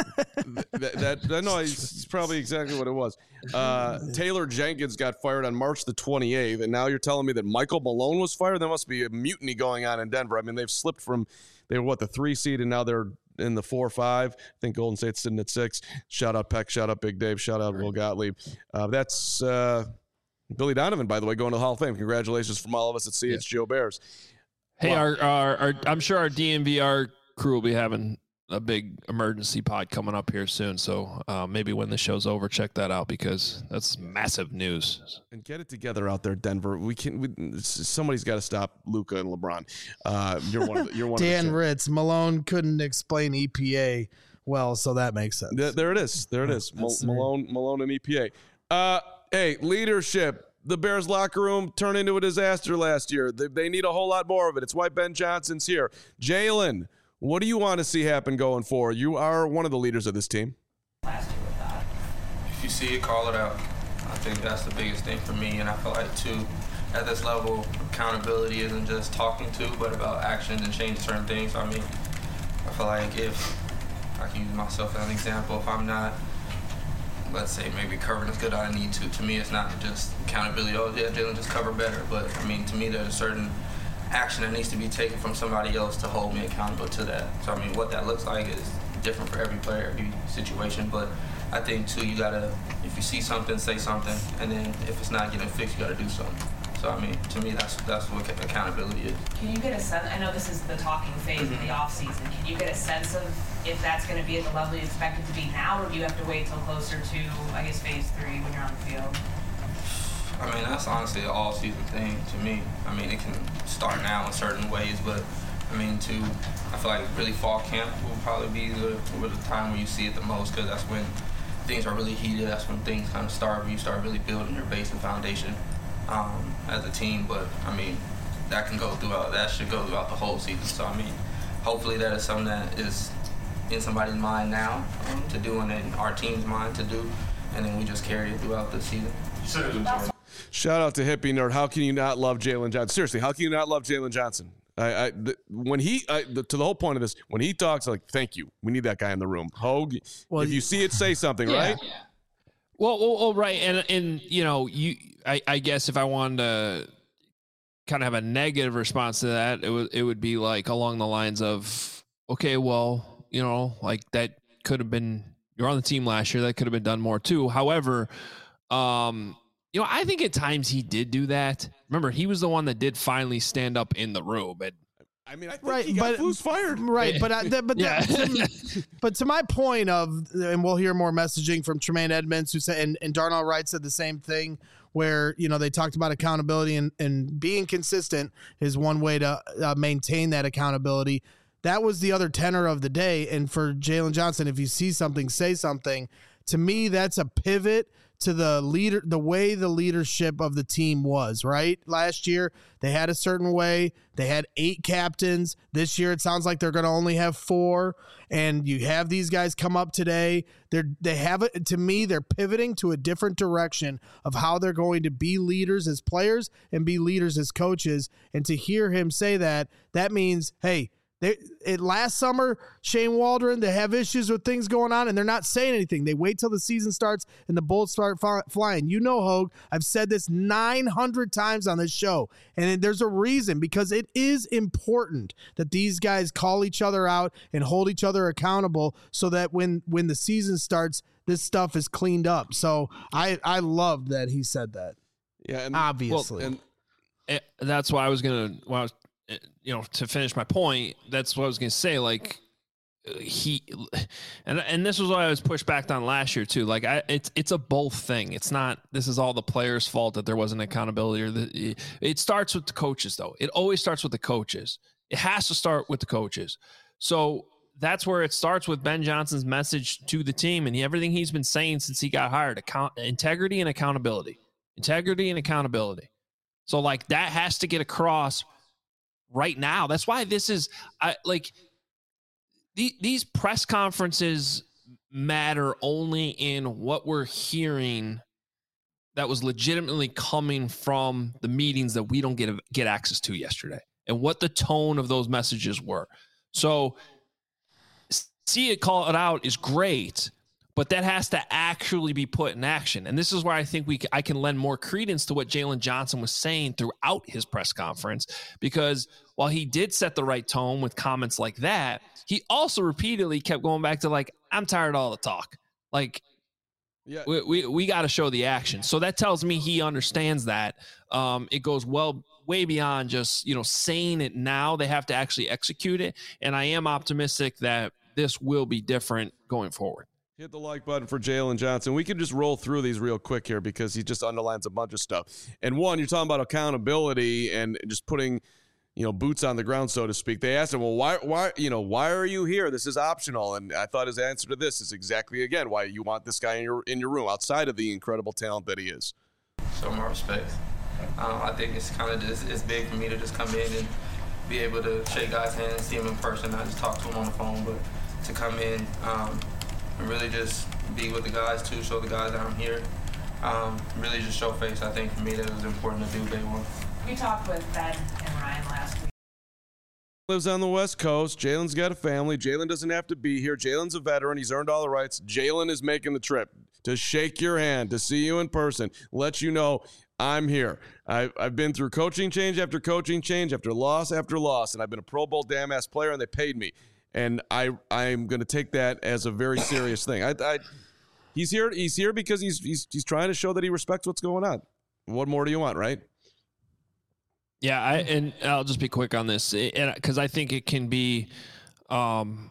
that, that, that no, it's probably exactly what it was. Uh, Taylor Jenkins got fired on March the twenty-eighth, and now you're telling me that Michael Malone was fired? There must be a mutiny going on in Denver. I mean, they've slipped from they were what the three seed, and now they're in the four five. I think Golden State's sitting at six. Shout out Peck, shout out Big Dave, shout out Will Gottlieb. Uh, that's uh, Billy Donovan, by the way, going to the Hall of Fame. Congratulations from all of us at C H G O Bears. Hey, Wow. our, our, our, I'm sure our D N V R crew will be having a big emergency pod coming up here soon. So uh, maybe when the show's over, check that out because that's massive news. And get it together out there, Denver. We can. We, somebody's got to stop Luka and LeBron. Uh, you're one. Of the, you're one. Dan of the Ritz, Malone couldn't explain E P A well, so that makes sense. Th- there it is. There it is. Mal- Malone, Malone, and E P A. Uh, hey, leadership. The Bears locker room turned into a disaster last year. They, they need a whole lot more of it. It's why Ben Johnson's here. Jalen, what do you want to see happen going forward? You are one of the leaders of this team. If you see it, call it out. I think that's the biggest thing for me, and I feel like, too, at this level, accountability isn't just talking to, but about actions and changing certain things. I mean, I feel like if I can use myself as an example, if I'm not, let's say, maybe covering as good as I need to, to me, it's not just accountability. Oh, yeah, Jalen, just cover better. But, I mean, to me, there's a certain action that needs to be taken from somebody else to hold me accountable to that. So, I mean, what that looks like is different for every player, every situation. But I think, too, you got to, if you see something, say something. And then if it's not getting fixed, you got to do something. So, I mean, to me, that's that's what accountability is. Can you get a sense, I know this is the talking phase mm-hmm. of the offseason, can you get a sense of if that's going to be at the level you expect it to be now, or do you have to wait till closer to, I guess, phase three when you're on the field? I mean, that's honestly an all-season thing to me. I mean, it can start now in certain ways, but, I mean, to, I feel like really fall camp will probably be the, the time where you see it the most, because that's when things are really heated. That's when things kind of start, where you start really building your base and foundation um, as a team. But, I mean, that can go throughout. That should go throughout the whole season. So I mean, hopefully that is something that is in somebody's mind now um, to do, and in our team's mind to do, and then we just carry it throughout the season. Shout out to Hippie Nerd. How can you not love Jalen Johnson? Seriously, how can you not love Jalen Johnson? I, I the, when he I, the, to the whole point of this, when he talks, like, thank you, we need that guy in the room. Hogue, well, if you see it, say something, yeah. right? Yeah. Well, well, well, right, and and you know, you, I, I guess if I wanted to kind of have a negative response to that, it would it would be like along the lines of, okay, well, you know, like that could have been, you're on the team last year, that could have been done more too. However, um, you know, I think at times he did do that. Remember, he was the one that did finally stand up in the room. And I mean, I think right, he got but, Flus fired. Right, but I, that, but yeah. that, to, but to my point of, and we'll hear more messaging from Tremaine Edmonds, who said, and, and Darnell Wright said the same thing, where, you know, they talked about accountability and, and being consistent is one way to uh, maintain that accountability. That was the other tenor of the day. And for Jalen Johnson, if you see something, say something. To me, that's a pivot to the leader, the way the leadership of the team was, right? Last year, they had a certain way. They had eight captains. This year, it sounds like they're going to only have four. And you have these guys come up today. They're, they have it. To me, they're pivoting to a different direction of how they're going to be leaders as players and be leaders as coaches. And to hear him say that, that means, hey, They, it, last summer, Shane Waldron, they have issues with things going on, and they're not saying anything. They wait till the season starts and the bullets start f- flying. You know, Hogue, I've said this nine hundred times on this show, and there's a reason, because it is important that these guys call each other out and hold each other accountable so that when, when the season starts, this stuff is cleaned up. So I, I loved that he said that. Yeah, and, obviously. Well, and that's why I was going to, I was you know, to finish my point, that's what I was going to say. Like he, and, and this was what I was pushed back on last year too. Like I, it's, it's a both thing. It's not, this is all the players' fault that there wasn't accountability, or the, it starts with the coaches though. It always starts with the coaches. It has to start with the coaches. So that's where it starts with Ben Johnson's message to the team and everything he's been saying since he got hired: account, integrity and accountability, integrity and accountability. So like that has to get across right now. That's why this is I like the, these press conferences matter only in what we're hearing that was legitimately coming from the meetings that we don't get get access to yesterday, and what the tone of those messages were. So see it, call it out is great, but that has to actually be put in action. And this is where I think we I can lend more credence to what Jalen Johnson was saying throughout his press conference, because while he did set the right tone with comments like that, he also repeatedly kept going back to like, I'm tired of all the talk. Like, yeah, we we, we got to show the action. So that tells me he understands that. Um, it goes well way beyond just, you know, saying it now. They have to actually execute it. And I am optimistic that this will be different going forward. Hit the like button for Jalen Johnson. We can just roll through these real quick here because he just underlines a bunch of stuff. And one, you're talking about accountability and just putting, you know, boots on the ground, so to speak. They asked him, well, why, why, you know, why are you here? This is optional. And I thought his answer to this is exactly, again, why you want this guy in your in your room outside of the incredible talent that he is. Show more respect. Um, I think it's kind of just, it's big for me to just come in and be able to shake guys' hands, see him in person, not just talk to him on the phone, but to come in um, and really just be with the guys too, show the guys that I'm here. Um, really just show face. I think for me that it was important to do day one. We talked with Ben and Ryan last week. Lives on the West Coast. Jalen's got a family. Jalen doesn't have to be here. Jalen's a veteran. He's earned all the rights. Jalen is making the trip to shake your hand, to see you in person, let you know I'm here. I've, I've been through coaching change after coaching change, after loss after loss, and I've been a Pro Bowl damn-ass player, and they paid me. And I, I'm going to take that as a very serious thing. I, I, he's here. He's here because he's, he's he's trying to show that he respects what's going on. What more do you want, right? Yeah, I, and I'll just be quick on this, and because I think it can be um,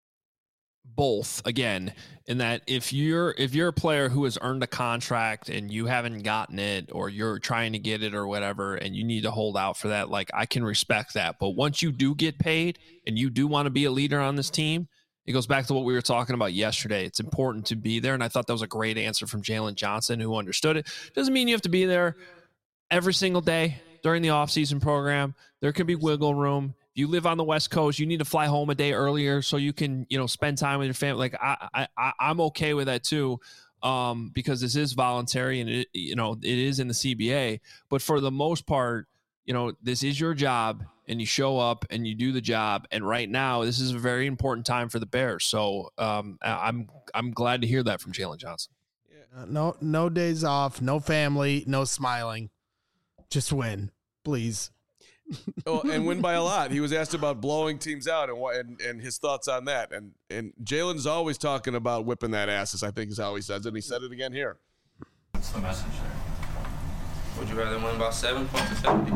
both. Again, in that if you're if you're a player who has earned a contract and you haven't gotten it, or you're trying to get it or whatever, and you need to hold out for that, like I can respect that. But once you do get paid and you do want to be a leader on this team, it goes back to what we were talking about yesterday. It's important to be there, and I thought that was a great answer from Jalen Johnson, who understood it. Doesn't mean you have to be there every single day. during the offseason program, there can be wiggle room. If you live on the West Coast, you need to fly home a day earlier so you can, you know, spend time with your family. Like I, I, I'm okay with that too, um, because this is voluntary and it, you know, it is in the C B A. But for the most part, you know, this is your job, and you show up and you do the job. And right now, this is a very important time for the Bears. So um, I'm I'm glad to hear that from Jalen Johnson. Uh, no, no days off, no family, no smiling. Just win, please. Oh, and win by a lot. He was asked about blowing teams out and what, and, and his thoughts on that. And and Jalen's always talking about whipping that asses, I think is how he says it. And he said it again here. What's the message there? Would you rather win by seven points or seventy?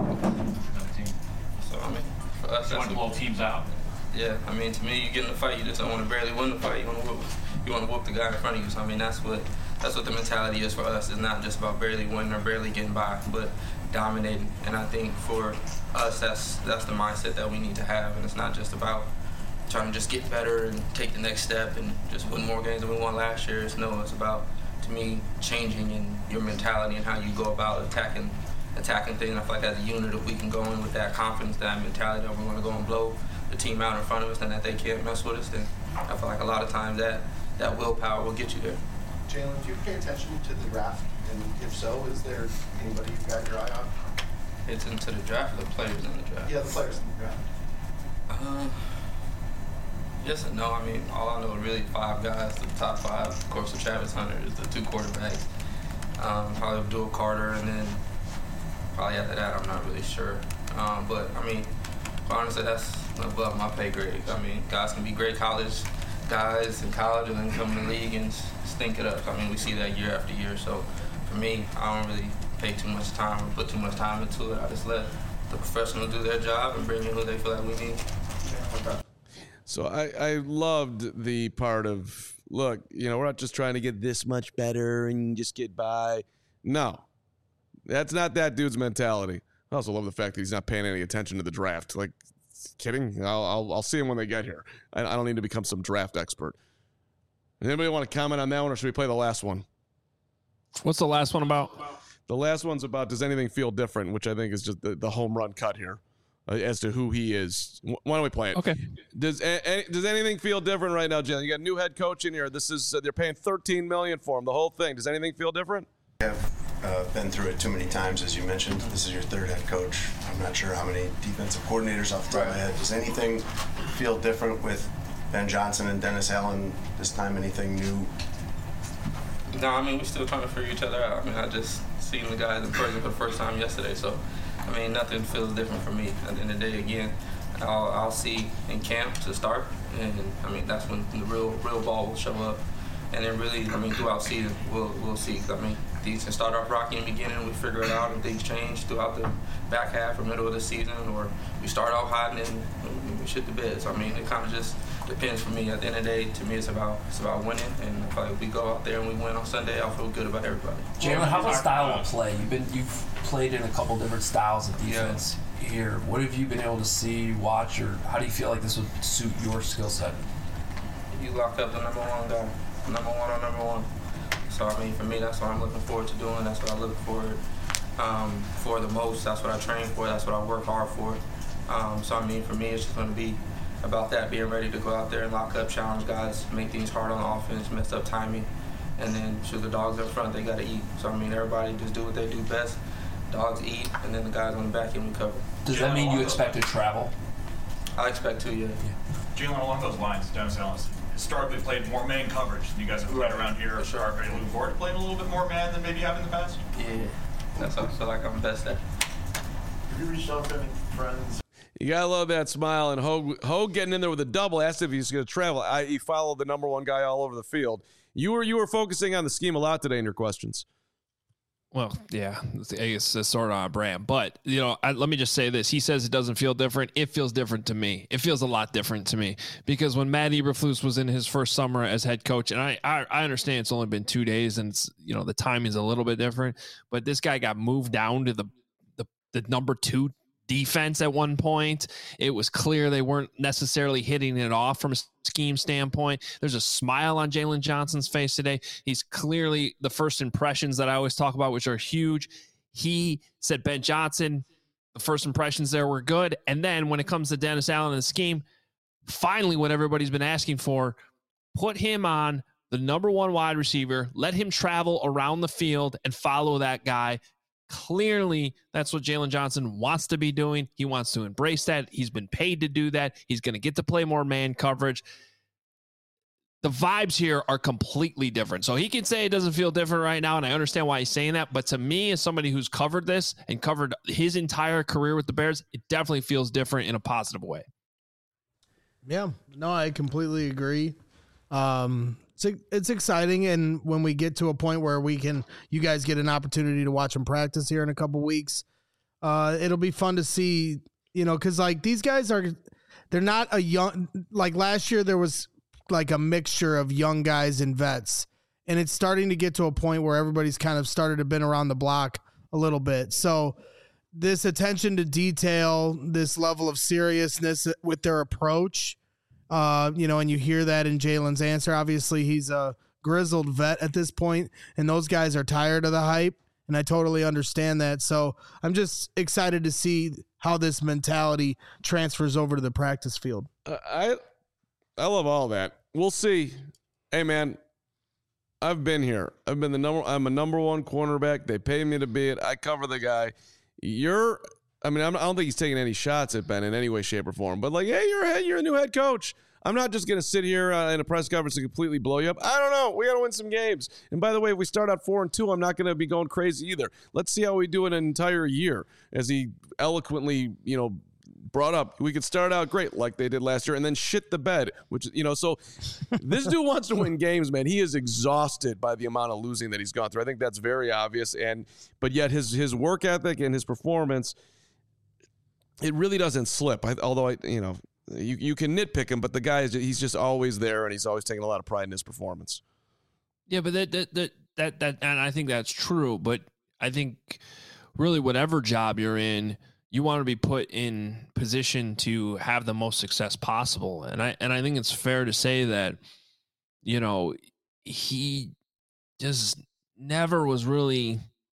So, I mean, for us, You that's want to blow teams out. Yeah, I mean, to me, you get in a fight, you just don't want to barely win the fight. You want to whoop, you want to whoop the guy in front of you. So, I mean, that's what that's what the mentality is for us. It's not just about barely winning or barely getting by, but dominating. And I think for us, that's that's the mindset that we need to have. And it's not just about trying to just get better and take the next step and just win more games than we won last year. It's no, it's about, to me, changing in your mentality and how you go about attacking attacking things. I feel like as a unit, if we can go in with that confidence, that mentality that we're going to go and blow the team out in front of us and that they can't mess with us, then I feel like a lot of times that, that willpower will get you there. Jalen, do you pay attention to the draft? And if so, is there anybody you've got your eye on? It's into the draft, or the players in the draft? Yeah, the players in the draft. Uh, yes and no. I mean, all I know is really five guys, the top five. Of course, the Travis Hunter is the two quarterbacks. Um, probably Abdul Carter, and then probably after that, I'm not really sure. Um, but, I mean, honestly, that's above my pay grade. I mean, guys can be great college guys in college and then come in the league and stink it up. I mean, we see that year after year. So, for me, I don't really pay too much time or put too much time into it. I just let the professionals do their job and bring in who they feel like we need. So I, I loved the part of, look, you know, we're not just trying to get this much better and just get by. No, that's not that dude's mentality. I also love the fact that he's not paying any attention to the draft. Like, kidding? I'll I'll, I'll see him when they get here. I, I don't need to become some draft expert. Anybody want to comment on that one, or should we play the last one? What's the last one about? The last one's about, does anything feel different, which I think is just the, the home run cut here uh, as to who he is. Why don't we play it? Okay. Does a, does anything feel different right now, Jen? You got a new head coach in here. This is uh, they're paying thirteen million dollars for him, the whole thing. Does anything feel different? I've uh, been through it too many times, as you mentioned. This is your third head coach. I'm not sure how many defensive coordinators off the top of my head. Does anything feel different with Ben Johnson and Dennis Allen this time? Anything new? No, I mean, we're still trying to figure each other out. I mean, I just seen the guys in person for the first time yesterday, so, I mean, nothing feels different for me. At the end of the day, again, I'll, I'll see in camp to start, and, I mean, that's when the real real ball will show up. And then really, I mean, throughout season, we'll we'll see. I mean, these can start off rocky in the beginning, we figure it out, and things change throughout the back half or middle of the season, or we start off hot and then we shit the bed. So, I mean, it kind of just depends for me. At the end of the day, to me, it's about it's about winning, and if, like, if we go out there and we win on Sunday, I'll feel good about everybody. Jalen, how about style of play? You've been you've played in a couple different styles of defense yeah. here. What have you been able to see, watch, or how do you feel like this would suit your skill set? You lock up the number one guy, number one or number one. So I mean, for me, that's what I'm looking forward to doing. That's what I look forward um, for the most. That's what I train for. That's what I work hard for. Um, so I mean, for me, it's just going to be about that, being ready to go out there and lock up, challenge guys, make things hard on offense, mess up timing, and then shoot the dogs up front. They got to eat. So I mean, everybody just do what they do best. Dogs eat, and then the guys on the back end recover. Does that mean you expect to travel? I expect to, yeah. yeah. Jalen, along those lines, Dennis Allen historically played more man coverage than you guys have played right. around here. Sure. Are you looking forward to playing a little bit more man than maybe you have in the past? Yeah, that's what I feel like I'm best at. Have you reached out to any friends? You gotta love that smile. And Hogue, Hogue getting in there with a double, asked if he's going to travel. I, he followed the number one guy all over the field. You were you were focusing on the scheme a lot today in your questions. Well, yeah, I guess it's sort of on brand. But, you know, I, let me just say this. He says it doesn't feel different. It feels different to me. It feels a lot different to me. Because when Matt Eberflus was in his first summer as head coach, and I, I, I understand it's only been two days and, it's, you know, the timing's a little bit different. But this guy got moved down to the the, the number two defense at one point. It was clear they weren't necessarily hitting it off from a scheme standpoint. There's a smile on Jalen Johnson's face today. He's clearly the first impressions that I always talk about, which are huge. He said Ben Johnson The first impressions there were good. And then when it comes to Dennis Allen and the scheme, finally what everybody's been asking for, put him on the number one wide receiver, let him travel around the field and follow that guy. Clearly, that's what Jaylon Johnson wants to be doing. He wants to embrace that. He's been paid to do that. He's going to get to play more man coverage. The vibes here are completely different. So he can say it doesn't feel different right now, and I understand why he's saying that. But to me, as somebody who's covered this and covered his entire career with the Bears, it definitely feels different in a positive way. Yeah, no, I completely agree. Um, it's, it's exciting, and when we get to a point where we can, you guys get an opportunity to watch him practice here in a couple weeks, uh, it'll be fun to see, you know, because, like, these guys are, they're not a young, like last year there was like a mixture of young guys and vets, and it's starting to get to a point where everybody's kind of started to been around the block a little bit. So this attention to detail, this level of seriousness with their approach, uh, you know, and you hear that in Jalen's answer. Obviously he's a grizzled vet at this point, and those guys are tired of the hype, and I totally understand that. So I'm just excited to see how this mentality transfers over to the practice field. Uh, I, I love all that. We'll see. Hey, man, I've been here. I've been the number. I'm a number one cornerback. They pay me to be it. I cover the guy. You're. I mean, I'm, I don't think he's taking any shots at Ben in any way, shape, or form. But like, hey, you're a head. You're a new head coach. I'm not just gonna sit here uh, in a press conference and completely blow you up. I don't know. We got to win some games. And by the way, if we start out four and two, I'm not gonna be going crazy either. Let's see how we do in an entire year. As he eloquently, you know, brought up, we could start out great like they did last year and then shit the bed, which, you know, so this dude wants to win games, man. He is exhausted by the amount of losing that he's gone through. I think that's very obvious. And, but yet his, his work ethic and his performance, it really doesn't slip. I, although I, you know, you, you can nitpick him, but the guy is, he's just always there and he's always taking a lot of pride in his performance. Yeah, but that, that, that, that, that and I think that's true, but I think really whatever job you're in, you want to be put in position to have the most success possible. And I, and I think it's fair to say that, you know, he just never was really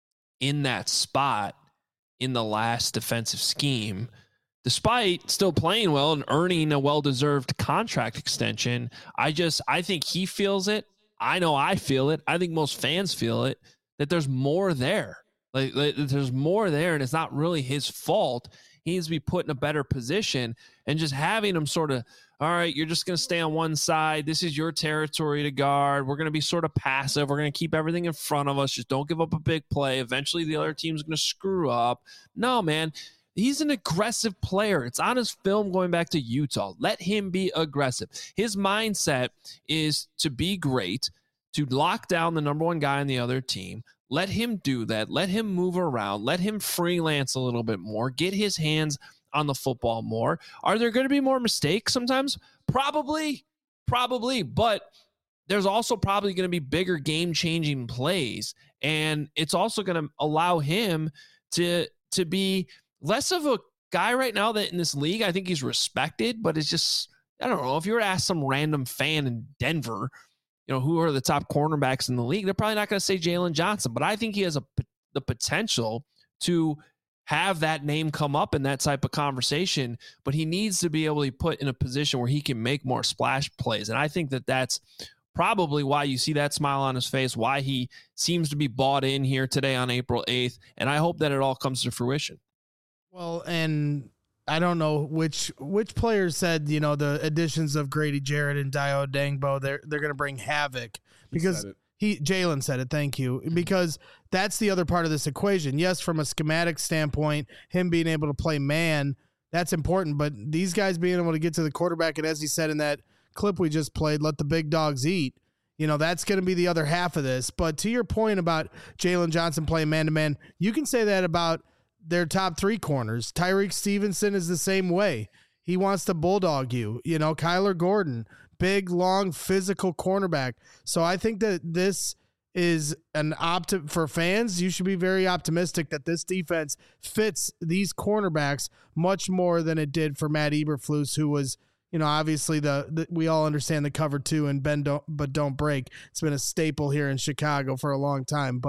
in that spot in the last defensive scheme, despite still playing well and earning a well-deserved contract extension. I just, I think he feels it. I know I feel it. I think most fans feel it, that there's more there. Like, like there's more there, and it's not really his fault. He needs to be put in a better position, and just having him sort of, all right, you're just going to stay on one side. This is your territory to guard. We're going to be sort of passive. We're going to keep everything in front of us. Just don't give up a big play. Eventually the other team's going to screw up. No, man, he's an aggressive player. It's on his film going back to Utah. Let him be aggressive. His mindset is to be great, to lock down the number one guy on the other team. Let him do that. Let him move around. Let him freelance a little bit more. Get his hands on the football more. Are there going to be more mistakes sometimes? Probably. Probably. But there's also probably going to be bigger game-changing plays. And it's also going to allow him to, to be less of a guy right now that in this league, I think he's respected, but it's just, I don't know, if you were to ask some random fan in Denver, you know, who are the top cornerbacks in the league, they're probably not going to say Jaylon Johnson, but I think he has a, the potential to have that name come up in that type of conversation, but he needs to be able to be put in a position where he can make more splash plays. And I think that that's probably why you see that smile on his face, why he seems to be bought in here today on April eighth. And I hope that it all comes to fruition. Well, and I don't know which which players said, you know, the additions of Grady Jarrett and Dio Dangbo, they're they're going to bring havoc because he Jaylon said it. Thank you. Because that's the other part of this equation. Yes, from a schematic standpoint, him being able to play man, that's important. But these guys being able to get to the quarterback, and as he said in that clip we just played, let the big dogs eat. You know, that's going to be the other half of this. But to your point about Jaylon Johnson playing man to man, you can say that about their top three corners. Tyreek Stevenson is the same way. He wants to bulldog you. You know, Kyler Gordon, big, long, physical cornerback. So I think that this is an opt for fans. You should be very optimistic that this defense fits these cornerbacks much more than it did for Matt Eberflus, who was, you know, obviously the, the we all understand the cover two and bend don't but don't break. It's been a staple here in Chicago for a long time, but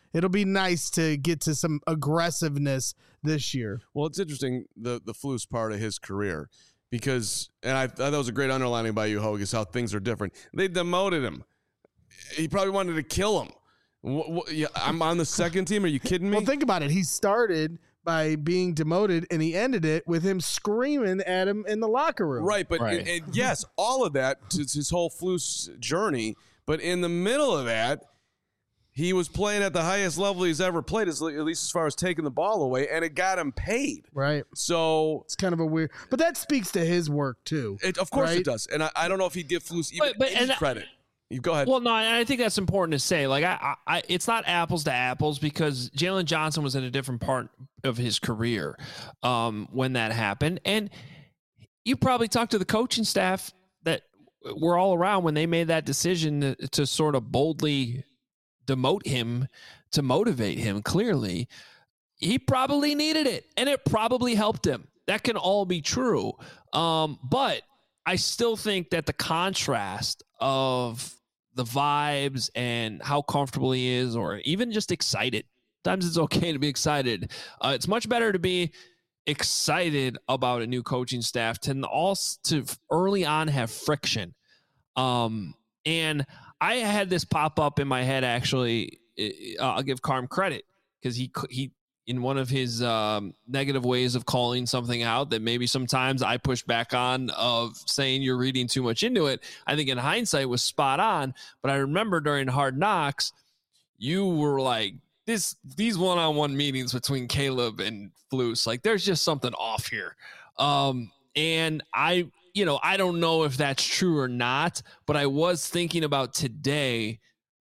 it'll be nice to get to some aggressiveness this year. Well, it's interesting, the the Flus part of his career, because, and I thought that was a great underlining by you, Hogue, is how things are different. They demoted him. He probably wanted to kill him. What, what, yeah, I'm on the second team. Are you kidding me? Well, think about it. He started by being demoted, and he ended it with him screaming at him in the locker room. Right, but Right. And, and yes, all of that, it's his whole Flus journey. But in the middle of that, he was playing at the highest level he's ever played, at least as far as taking the ball away, and it got him paid. Right. So it's kind of a weird, but that speaks to his work too. It, of course right? it does, and I, I don't know if he'd give Flus even But- but- any and- credit. You go ahead. Well, no, and I think that's important to say. Like, I, I, it's not apples to apples because Jalen Johnson was in a different part of his career um, when that happened, and you probably talked to the coaching staff that were all around when they made that decision to, to sort of boldly demote him to motivate him. Clearly, he probably needed it, and it probably helped him. That can all be true, um, but I still think that the contrast of the vibes and how comfortable he is, or even just excited. Sometimes it's okay to be excited. Uh, it's much better to be excited about a new coaching staff to also to early on have friction. Um, and I had this pop up in my head. Actually, uh, I'll give Carm credit because he he in one of his um, negative ways of calling something out that maybe sometimes I push back on, of saying you're reading too much into it. I think in hindsight was spot on, but I remember during Hard Knocks, you were like, this, these one-on-one meetings between Caleb and Flus, like there's just something off here. Um, and I, you know, I don't know if that's true or not, but I was thinking about today,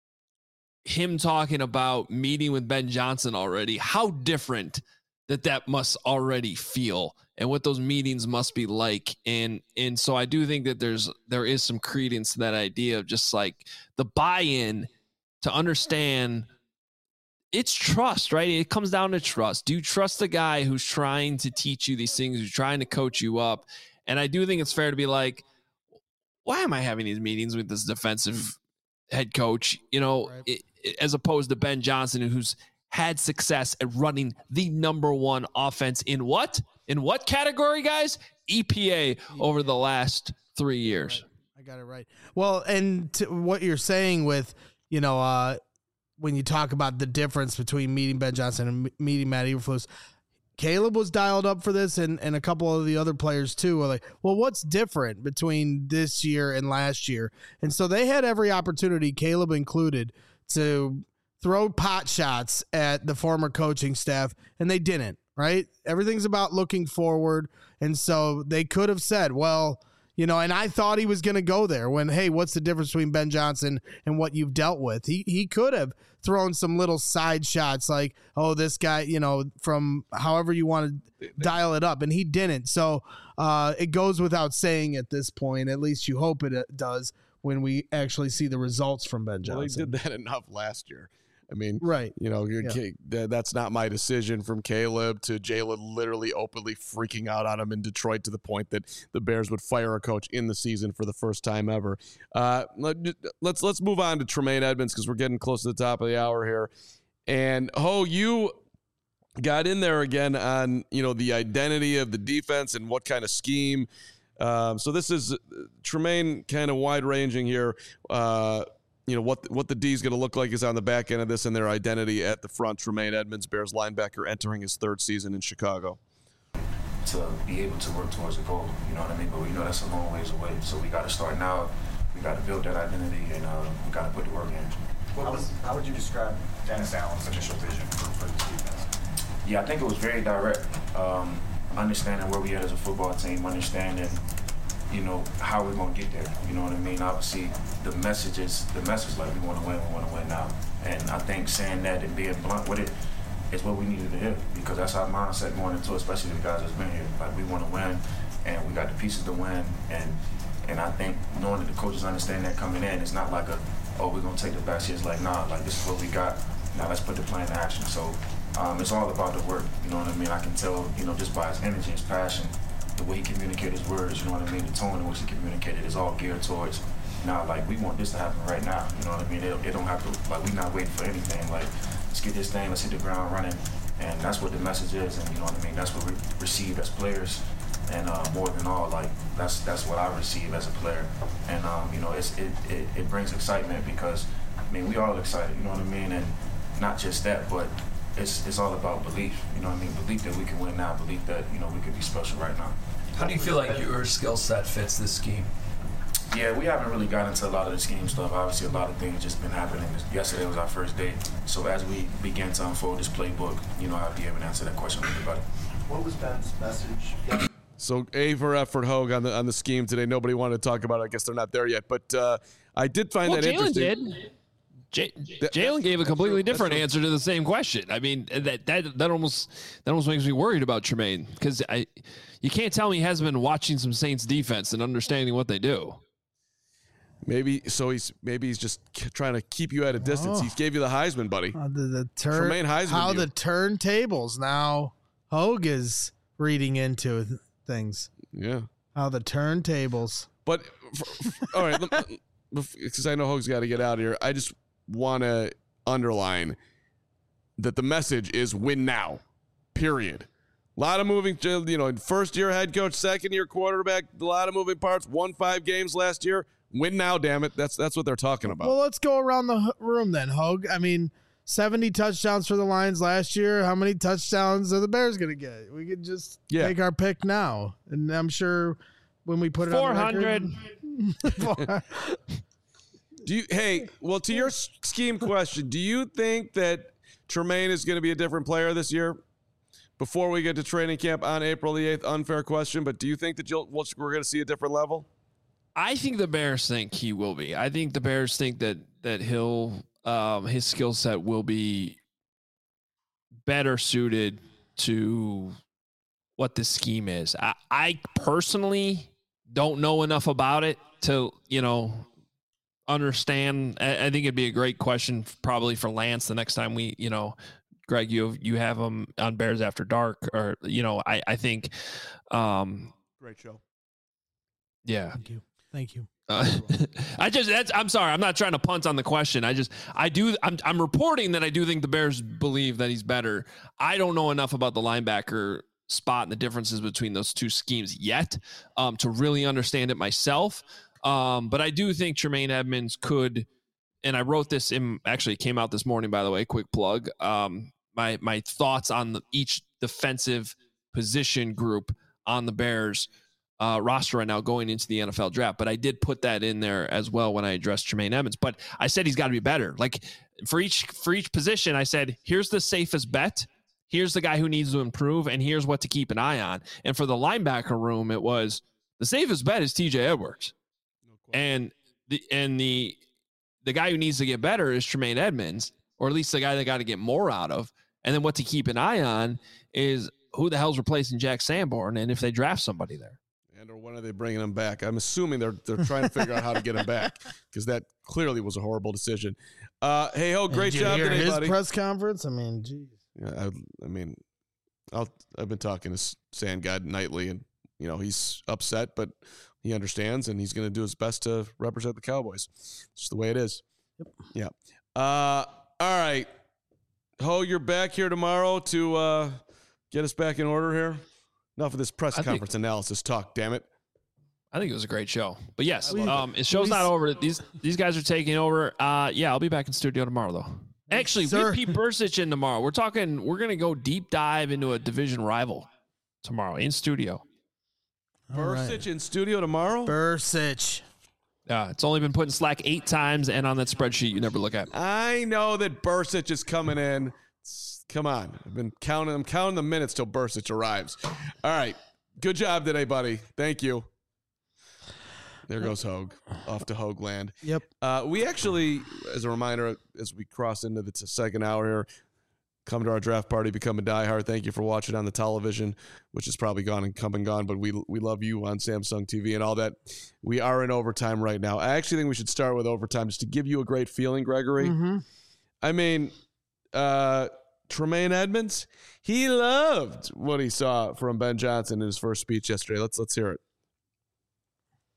him talking about meeting with Ben Johnson already, how different that that must already feel and what those meetings must be like. And, and so I do think that there's, there is some credence to that idea of just like the buy-in to understand it's trust, right? It comes down to trust. Do you trust the guy who's trying to teach you these things, who's trying to coach you up? And I do think it's fair to be like, why am I having these meetings with this defensive head coach, you know, right. it, it, as opposed to Ben Johnson, who's had success at running the number one offense in what? In what category, guys? E P A over the last three years. Right. I got it right. Well, and to what you're saying with, you know, uh, when you talk about the difference between meeting Ben Johnson and meeting Matt Eberflus, Caleb was dialed up for this, and, and a couple of the other players too were like, well, what's different between this year and last year? And so they had every opportunity, Caleb included, to throw pot shots at the former coaching staff, and they didn't, right? Everything's about looking forward. And so they could have said, well, you know, and I thought he was going to go there when, hey, what's the difference between Ben Johnson and what you've dealt with? He he could have thrown some little side shots like, oh, this guy, you know, from however you want to dial it up, and he didn't. So uh, it goes without saying at this point, at least you hope it does, when we actually see the results from Ben Johnson. Well, he did that enough last year. I mean, right. You know, yeah. that's not my decision from Caleb to Jalen literally openly freaking out on him in Detroit to the point that the Bears would fire a coach in the season for the first time ever. Uh, let, let's let's move on to Tremaine Edmunds because we're getting close to the top of the hour here. And Ho, you got in there again on, you know, the identity of the defense and what kind of scheme. Um, so this is uh, Tremaine kind of wide ranging here. Uh, You know, what what the D is going to look like is on the back end of this and their identity at the front. Tremaine Edmunds, Bears linebacker, entering his third season in Chicago. To be able to work towards a goal, you know what I mean? But we know that's a long ways away. So we got to start now. We got to build that identity, and uh, we got to put the work in. How would, how would you describe Dennis Allen's initial vision for, for this defense? Yeah, I think it was very direct. Um, understanding where we are as a football team, understanding, you know, how we're going to get there. You know what I mean? Obviously, the message is the message, like, we want to win, we want to win now. And I think saying that and being blunt with it is what we needed to hear, because that's our mindset going into it, especially the guys that's been here. Like, we want to win, and we got the pieces to win. And and I think knowing that the coaches understand that coming in, it's not like a, oh, we're going to take the back seat. It's like, nah, like, this is what we got. Now let's put the plan in action. So um, it's all about the work. You know what I mean? I can tell, you know, just by his energy, his passion, the way he communicated his words, you know what I mean? The tone in which he communicated is all geared towards, now, like, we want this to happen right now. You know what I mean? It, it don't have to, like, we're not waiting for anything. Like, let's get this thing, let's hit the ground running. And that's what the message is, and you know what I mean? That's what we received as players. And uh, more than all, like, that's that's what I receive as a player. And, um, you know, it's, it, it, it brings excitement because, I mean, we all excited, you know what I mean? And not just that, but it's it's all about belief, you know what I mean? Belief that we can win now, belief that, you know, we could be special right now. How do you feel like your skill set fits this scheme? Yeah, we haven't really got into a lot of the scheme stuff. Obviously, a lot of things just been happening. Yesterday was our first day. So as we begin to unfold this playbook, you know, I'll be able to answer that question with everybody. What was Ben's message? So A for effort, Hogue, on the on the scheme today. Nobody wanted to talk about it. I guess they're not there yet. But uh, I did find well, that Jalen interesting. Did. J- Jalen gave a completely different answer to the same question. I mean, that that that almost that almost makes me worried about Tremaine because I, you can't tell me he hasn't been watching some Saints defense and understanding what they do. Maybe so. He's maybe he's just k- trying to keep you at a distance. Oh. He gave you the Heisman, buddy. Uh, the the turn, Tremaine Heisman. how you. the turntables now. Hogue is reading into th- things. Yeah. How the turntables. But for, for, all right, because I know Hogue's got to get out of here. I just want to underline that the message is win now. Period. A lot of moving, you know, first year head coach, second year quarterback, a lot of moving parts. Won five games last year. Win now, damn it. That's that's what they're talking about. Well, let's go around the room then, Hogue. I mean, seventy touchdowns for the Lions last year. How many touchdowns are the Bears going to get? We could just yeah. take our pick now. And I'm sure when we put it four on hundred. Do you, hey, well, to your scheme question, do you think that Tremaine is going to be a different player this year? Before we get to training camp on April the eighth, unfair question, but do you think that you'll, we're going to see a different level? I think the Bears think he will be. I think the Bears think that that he'll um, his skill set will be better suited to what the scheme is. I, I personally don't know enough about it to, you know, understand. I, I think it'd be a great question probably for Lance the next time we, you know, Greg, you you have him on Bears After Dark, or, you know, I, I think. Um, Great show. Yeah. Thank you. Thank you. Uh, I just, that's, I'm sorry. I'm not trying to punt on the question. I just, I do, I'm, I'm reporting that I do think the Bears believe that he's better. I don't know enough about the linebacker spot and the differences between those two schemes yet um, to really understand it myself. Um, but I do think Tremaine Edmonds could, and I wrote this in, actually it came out this morning, by the way, quick plug. Um, my, my thoughts on the, each defensive position group on the Bears Uh, roster right now going into the N F L draft. But I did put that in there as well when I addressed Tremaine Edmonds. But I said he's got to be better. Like for each for each position, I said, here's the safest bet. Here's the guy who needs to improve, and here's what to keep an eye on. And for the linebacker room, it was the safest bet is T J Edwards. No and the and the the guy who needs to get better is Tremaine Edmonds, or at least the guy they got to get more out of. And then what to keep an eye on is who the hell's replacing Jack Sanborn, and if they draft somebody there. And or when are they bringing him back? I'm assuming they're they're trying to figure out how to get him back because that clearly was a horrible decision. Uh, hey, ho, great Did you job hear today, his buddy. press conference. I mean, geez. Yeah, I, I mean, I'll, I've been talking to Sand God nightly, and you know he's upset, but he understands, and he's going to do his best to represent the Cowboys. It's just the way it is. Yep. Yeah. Uh, all right, Ho, you're back here tomorrow to uh, get us back in order here. Enough of this press I conference think, analysis talk, damn it. I think it was a great show. But yes, um, it. his show's not over. These these guys are taking over. Uh, yeah, I'll be back in studio tomorrow, though. Actually, Yes, we have sir. Pete Bursich in tomorrow. We're talking, we're going to go deep dive into a division rival tomorrow in studio. All right. Bursich in studio tomorrow? Bursich. Yeah, it's only been put in Slack eight times and on that spreadsheet you never look at. I know that Bursich is coming in. Come on. I've been counting. I'm counting the minutes till Bursich arrives. All right. Good job today, buddy. Thank you. There goes Hogue. Off to Hogue land. Yep. Uh, we actually, as a reminder, as we cross into the t- second hour here, come to our draft party, become a diehard. Thank you for watching on the television, which is probably gone and come and gone, but we we love you on Samsung T V and all that. We are in overtime right now. I actually think we should start with overtime just to give you a great feeling, Gregory. Mm-hmm. I mean, uh, Tremaine Edmonds, he loved what he saw from Ben Johnson in his first speech yesterday. Let's let's hear it.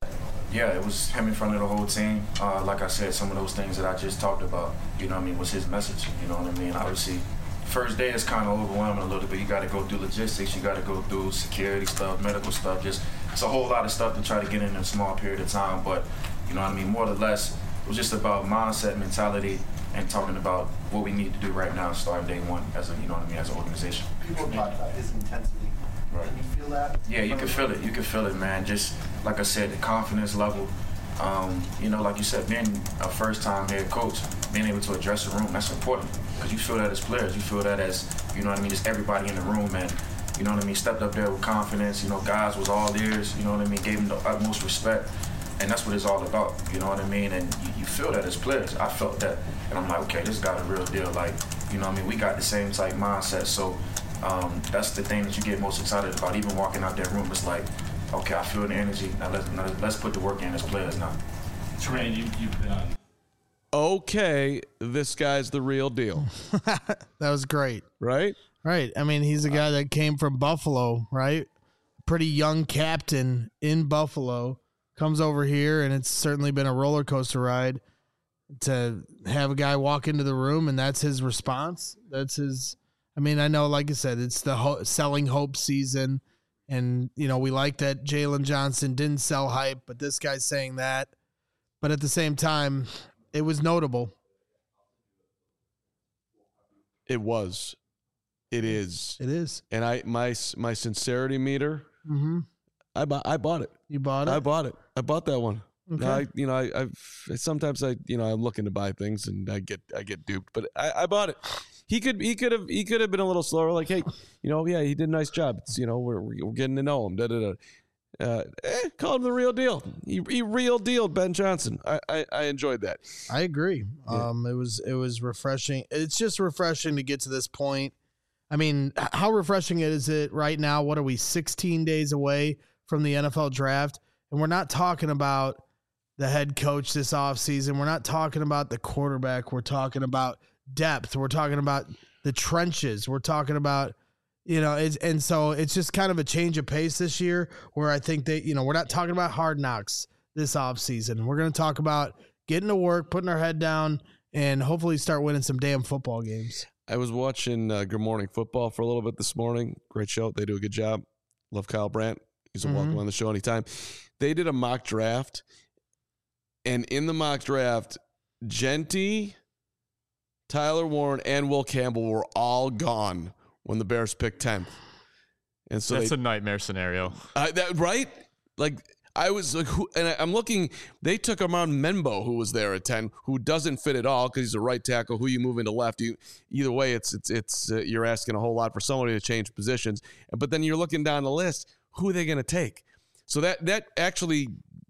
Yeah, it was him in front of the whole team. Uh, like I said, some of those things that I just talked about, you know what I mean, was his message. You know what I mean? Obviously, first day is kind of overwhelming a little bit. You got to go through logistics. You got to go through security stuff, medical stuff. Just it's a whole lot of stuff to try to get in a small period of time. But, you know what I mean, more or less, it was just about mindset, mentality, and talking about what we need to do right now, starting day one as a, you know what I mean, as an organization. People talk about his intensity. Right. Can you feel that? Yeah, you can feel it. You can feel it, man. Just like I said, the confidence level. Um, you know, like you said, being a first-time head coach, being able to address the room, that's important. Because you feel that as players. You feel that as, you know what I mean, just everybody in the room, and, you know what I mean, stepped up there with confidence. You know, guys was all ears, you know what I mean, gave them the utmost respect. And that's what it's all about, you know what I mean? And you, you feel that as players. I felt that. And I'm like, okay, this got a real deal. Like, you know what I mean? We got the same type mindset. So um, that's the thing that you get most excited about. Even walking out that room, it's like, okay, I feel the energy. Now let's, now let's put the work in as players now. Tremaine, you, you've been on. Okay, this guy's the real deal. That was great. Right? Right. I mean, he's a guy that came from Buffalo, right? Pretty young captain in Buffalo. Comes over here, and it's certainly been a roller coaster ride to have a guy walk into the room, and that's his response. That's his. I mean, I know, like I said, it's the ho- selling hope season, and you know we like that Jalen Johnson didn't sell hype, but this guy's saying that. But at the same time, it was notable. It was. It is. It is. And I my my sincerity meter. Mm-hmm. I bought. I bought it. You bought it. I bought it. I bought that one. Okay. I, you know, I, I've sometimes I, you know, I'm looking to buy things and I get, I get duped. But I, I bought it. He could, he could have, he could have been a little slower. Like, hey, you know, yeah, he did a nice job. It's, you know, we're we're getting to know him. Da da da. Uh, eh, call him the real deal. He, he real dealed Ben Johnson. I, I, I enjoyed that. I agree. Yeah. Um, it was it was refreshing. It's just refreshing to get to this point. I mean, how refreshing is it right now? What are we, sixteen days away from the N F L draft? And we're not talking about the head coach this offseason. We're not talking about the quarterback. We're talking about depth. We're talking about the trenches. We're talking about, you know, it's, and so it's just kind of a change of pace this year where I think that, you know, we're not talking about hard knocks this offseason. We're going to talk about getting to work, putting our head down, and hopefully start winning some damn football games. I was watching uh, Good Morning Football for a little bit this morning. Great show. They do a good job. Love Kyle Brandt. He's a mm-hmm. welcome on the show anytime. They did a mock draft, and in the mock draft, Genty, Tyler Warren, and Will Campbell were all gone when the Bears picked tenth. And so that's they, a nightmare scenario. Uh, that right? Like I was like, who, and I, I'm looking. They took Armand Menbo, who was there at ten, who doesn't fit at all because he's a right tackle. Who you move into left? You either way, it's it's it's uh, you're asking a whole lot for somebody to change positions. But then you're looking down the list. Who are they going to take? So that that actually,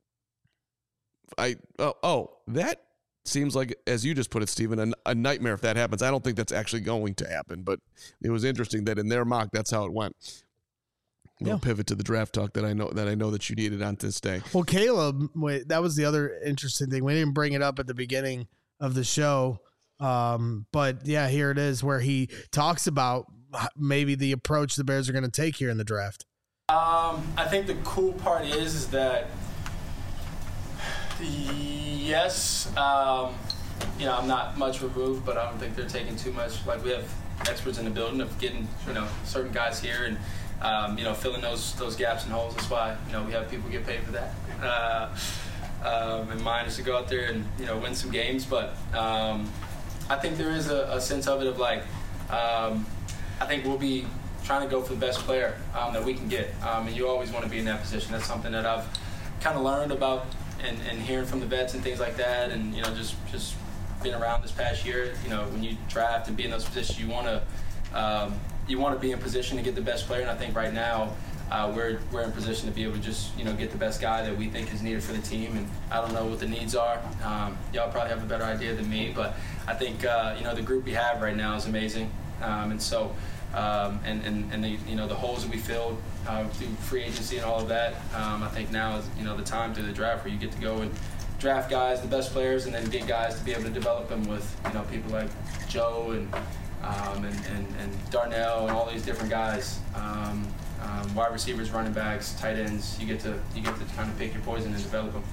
I oh, oh that seems like, as you just put it, Stephen, a, a nightmare if that happens. I don't think that's actually going to happen, but it was interesting that in their mock, that's how it went. We'll yeah. pivot to the draft talk that I know that I know that you needed on this day. Well, Caleb, wait, that was the other interesting thing. We didn't bring it up at the beginning of the show, um, but yeah, here it is, where he talks about maybe the approach the Bears are going to take here in the draft. Um, I think the cool part is, is that, yes, um, you know, I'm not much removed, but I don't think they're taking too much. Like, we have experts in the building of getting, you know, certain guys here and, um, you know, filling those those gaps and holes. That's why, you know, we have people get paid for that. Uh, um, and mine is to go out there and, you know, win some games. But um, I think there is a, a sense of it of, like, um, I think we'll be trying to go for the best player um, that we can get. Um, and you always want to be in that position. That's something that I've kind of learned about and, and hearing from the vets and things like that. And, you know, just, just being around this past year, you know, when you draft and be in those positions, you want to um, you want to be in position to get the best player. And I think right now uh, we're, we're in position to be able to just, you know, get the best guy that we think is needed for the team. And I don't know what the needs are. Um, y'all probably have a better idea than me. But I think, uh, you know, the group we have right now is amazing. Um, and so, Um, and and, and the, you know, the holes that we filled uh, through free agency and all of that, um, I think now is, you know, the time through the draft where you get to go and draft guys, the best players, and then get guys to be able to develop them with, you know, people like Joe and um, and, and, and Darnell and all these different guys, um, um, wide receivers, running backs, tight ends. You get to you get to kind of pick your poison and develop them.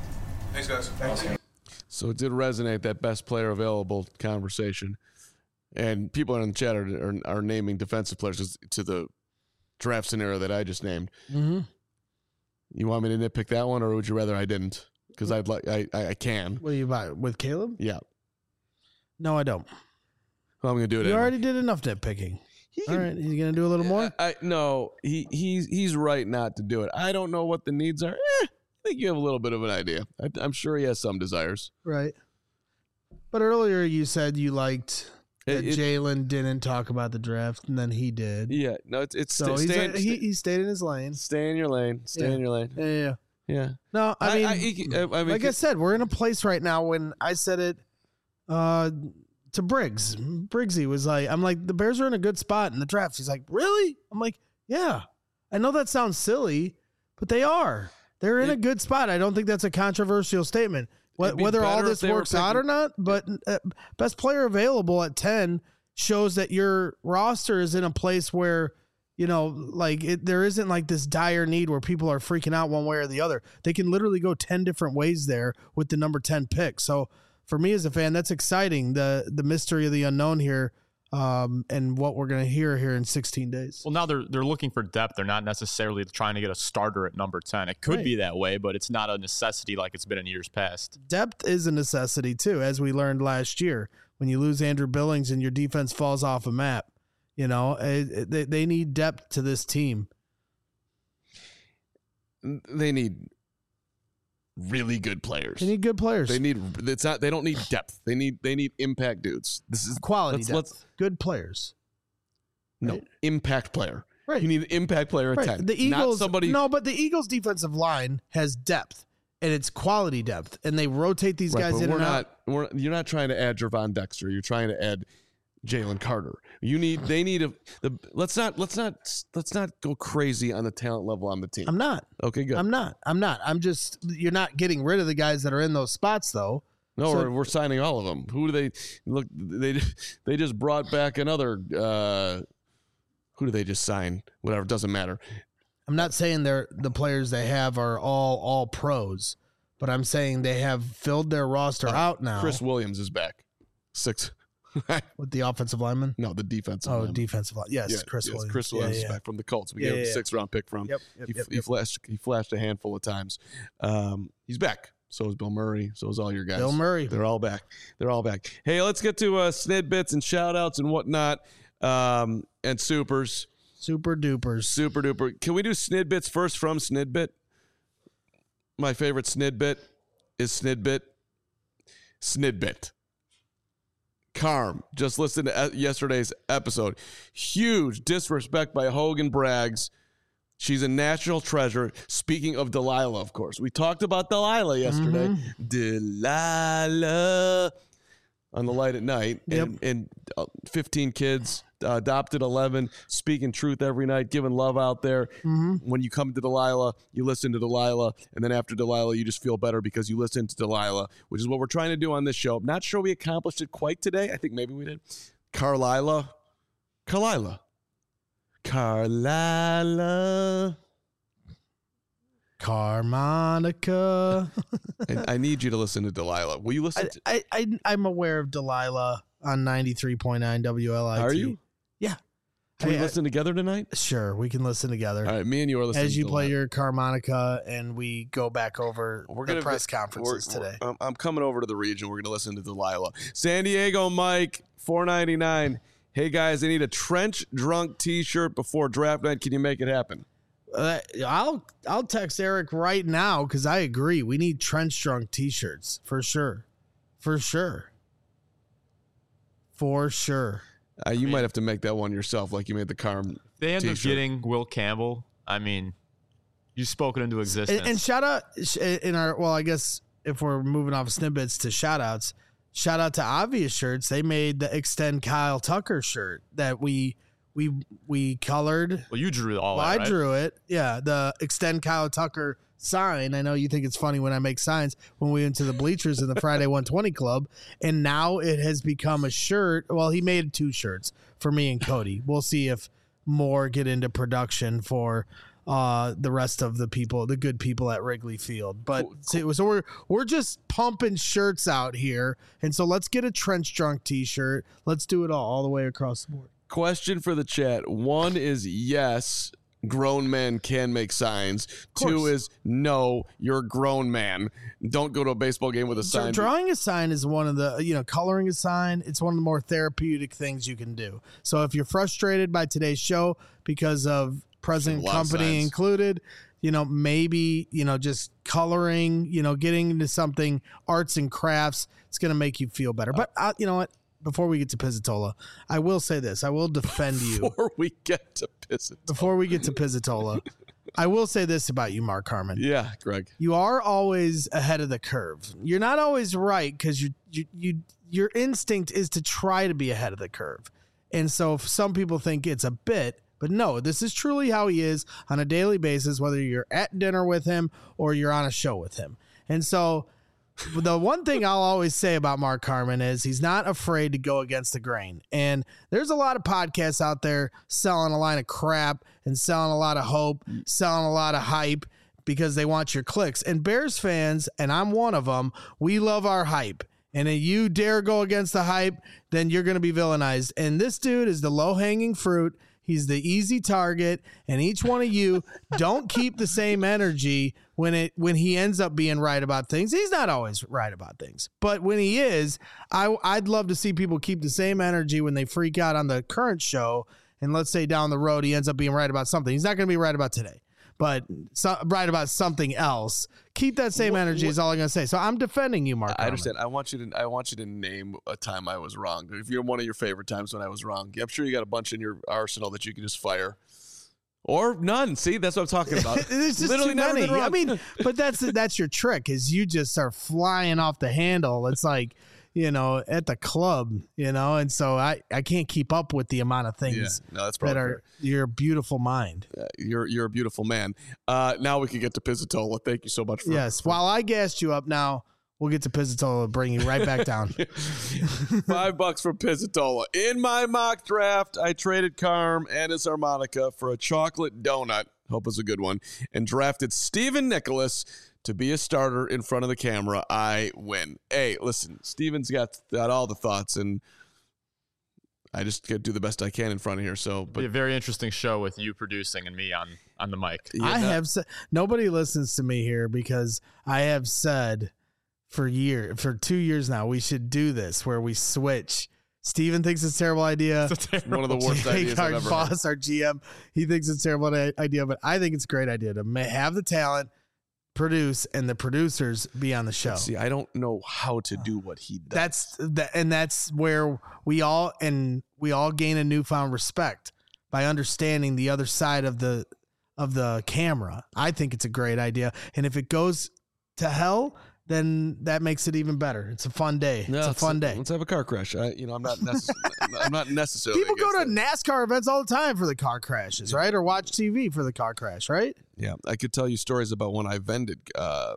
Thanks, guys. Thanks. So it did resonate, that best player available conversation. And people in the chat are, are, are naming defensive players to the draft scenario that I just named. Mm-hmm. You want me to nitpick that one, or would you rather I didn't? Because I'd like I, I I can. What do you buy with Caleb? Yeah. No, I don't. Well, I'm gonna do it. You anyway. already did enough nitpicking. All right, he's gonna do a little more. I, I no, he he's he's right not to do it. I don't know what the needs are. Eh, I think you have a little bit of an idea. I, I'm sure he has some desires. Right. But earlier you said you liked that It- it- Jalen didn't talk about the draft, and then he did. Yeah, no, it's it's So sta- he's stay, a, he he stayed in his lane. stay in your lane. Stay Yeah. in your lane. Yeah, yeah. Yeah. No, I, I- mean, I- he- I- I mean, like I said, we're in a place right now when I said it uh, to Briggs. Briggsy was like, I'm like, the Bears are in a good spot in the draft. He's like, really? I'm like, yeah. I know that sounds silly, but they are. They're in It- a good spot. I don't think that's a controversial statement. Wh- It'd be Whether all better if this they were works out or picking- not, but uh, best player available at ten shows that your roster is in a place where, you know, like it, there isn't like this dire need where people are freaking out one way or the other. They can literally go ten different ways there with the number ten pick. So for me as a fan, that's exciting. The the mystery of the unknown here, um, and what we're going to hear here in sixteen days. Well, now they're they're looking for depth. They're not necessarily trying to get a starter at number ten. It could Right. be that way, but it's not a necessity like it's been in years past. Depth is a necessity too, as we learned last year. When you lose Andrew Billings and your defense falls off a map, you know, it, it, they, they need depth to this team. They need really good players. They need good players. They need. It's not. They don't need depth. They need. They need impact dudes. This is quality let's- depth. let's- good players. No Right. impact player. Right. You need an impact player at Right. ten. The Eagles, not somebody. no, but the Eagles' defensive line has depth, and it's quality depth, and they rotate these Right, guys but in we're and not. out. We're, you're not trying to add Jervon Dexter. You're trying to add Jalen Carter. You need. They need a. The let's not. Let's not. Let's not go crazy on the talent level on the team. I'm not. Okay, good. I'm not. I'm not. I'm just. You're not getting rid of the guys that are in those spots, though. No, So- we're, we're signing all of them. Who do they look? They they just brought back another. Uh, who do they just sign? Whatever, it doesn't matter. I'm not saying they're the players they have are all all pros, but I'm saying they have filled their roster out now. Chris Williams is back. Six. with the offensive lineman. No, the defensive. Oh, lineman. defensive line. Yes, Yeah, Chris yes, Williams. Chris Yeah, Williams is yeah. back from the Colts. We Yeah, gave him yeah, a six round pick from. Yep, yep, he, yep, he yep. flashed. He flashed a handful of times. Um, he's back. So is Bill Murray. So is all your guys. Bill Murray. They're all back. They're all back. Hey, let's get to uh, snidbits and shout outs and whatnot. Um, and supers. Super dupers. Super duper. Can we do snidbits first from Snidbit? My favorite snidbit is Snidbit. Snidbit. Carm. Just listen to uh, yesterday's episode. Huge disrespect by Hogan Braggs. She's a national treasure. Speaking of Delilah, of course. We talked about Delilah yesterday. Mm-hmm. Delilah on the light at night. Yep. And, and uh, fifteen kids, uh, adopted eleven, speaking truth every night, giving love out there. Mm-hmm. When you come to Delilah, you listen to Delilah. And then after Delilah, you just feel better because you listen to Delilah, which is what we're trying to do on this show. I'm not sure we accomplished it quite today. I think maybe we did. Carlila. Carlila. Carlila. Carmonica. I, I need you to listen to Delilah. Will you listen I, to I, I, I'm aware of Delilah on ninety-three point nine W L I T. Are you? Yeah. Can we I- I- listen together tonight? Sure, we can listen together. All right, me and you are listening As you to play Delilah. your harmonica and we go back over We're the gonna press vi- conferences we're- today. we're- I'm, I'm coming over to the region. We're going to listen to Delilah. San Diego Mike, four ninety-nine. Hey guys, I need a trench drunk T-shirt before draft night. Can you make it happen? Uh, I'll I'll text Eric right now because I agree. We need trench drunk T-shirts for sure, for sure, for sure. Uh, you might have to make that one yourself, like you made the Carm. They end up T-shirt. getting Will Campbell. I mean, you spoke it into existence. And, and shout out in our well, I guess if we're moving off snippets to shout outs, shout out to Obvious Shirts. They made the Extend Kyle Tucker shirt that we we we colored. well, you drew all Well, that, I right? drew it. Yeah, the Extend Kyle Tucker sign. I know you think it's funny when I make signs when we went to the bleachers in the Friday one twenty Club, and now it has become a shirt. Well, he made two shirts for me and Cody. We'll see if more get into production for uh, the rest of the people, the good people at Wrigley Field. But so, so we're we're just pumping shirts out here, and so let's get a Trench Drunk T-shirt. Let's do it all, all the way across the board. Question for the chat. One is yes, grown men can make signs. Two is no, you're a grown man. Don't go to a baseball game with a So sign. drawing a sign is one of the, you know, coloring a sign, it's one of the more therapeutic things you can do. So if you're frustrated by today's show because of present company included, you know, maybe, you know, just coloring, you know, getting into something, arts and crafts, it's going to make you feel better. But uh, you know what? Before we get to Pizzatola, I will say this. I will defend you. Before we get to Pizzatola. Before we get to Pizzatola, I will say this about you, Mark Harmon. Yeah, Greg. You are always ahead of the curve. You're not always right because you, you, you, your instinct is to try to be ahead of the curve. And so some people think it's a bit, but no, this is truly how he is on a daily basis, whether you're at dinner with him or you're on a show with him. And so the one thing I'll always say about Mark Harmon is he's not afraid to go against the grain. And there's a lot of podcasts out there selling a line of crap and selling a lot of hope, selling a lot of hype because they want your clicks. And Bears fans, and I'm one of them, we love our hype. And if you dare go against the hype, then you're going to be villainized. And this dude is the low-hanging fruit. He's the easy target, and each one of you don't keep the same energy when it when he ends up being right about things. He's not always right about things, but when he is, I, I'd love to see people keep the same energy when they freak out on the current show. And let's say down the road he ends up being right about something. He's not going to be right about today, but so, right about something else. Keep that same what, energy what, is all I'm going to say. So I'm defending you, Mark. I understand. I want you to I want you to name a time I was wrong. If you're one of your favorite times when I was wrong, I'm sure you got a bunch in your arsenal that you can just fire. Or none. See, that's what I'm talking about. It's just Literally too never many. been wrong. I mean, but that's that's your trick is you just start flying off the handle. It's like, you know, at the club, you know, and so I, I can't keep up with the amount of things yeah, no, that's that are fair. your beautiful mind. Uh, you're you're a beautiful man. Uh, now we can get to Pizzatola. Thank you so much for yes. For, while I gassed you up, now we'll get to Pizzatola and bring you right back down. Five bucks for Pizzatola. In my mock draft, I traded Carm and his harmonica for a chocolate donut. Hope it's a good one. And drafted Stephen Nicholas to be a starter in front of the camera. I win. Hey, listen, Steven's got, got all the thoughts, and I just get to do the best I can in front of here. So, but be a very interesting show with you producing and me on on the mic. Yeah, I no. have said nobody listens to me here because I have said for year for two years now we should do this where we switch. Steven thinks it's a terrible idea. It's a terrible one of the worst ideas our I've ever boss, heard. Our G M, he thinks it's a terrible idea, but I think it's a great idea to have the talent, produce, and the producers be on the show. See, I don't know how to do what he does. That's that, and that's where we all and we all gain a newfound respect by understanding the other side of the of the camera. I think it's a great idea, and if it goes to hell, then that makes it even better. It's a fun day. No, it's a fun day. Let's have a car crash. I, you know, I'm not. Necess- I'm not necessarily. People go to that. NASCAR events all the time for the car crashes, right? Or watch T V for the car crash, right? Yeah, I could tell you stories about when I vended uh,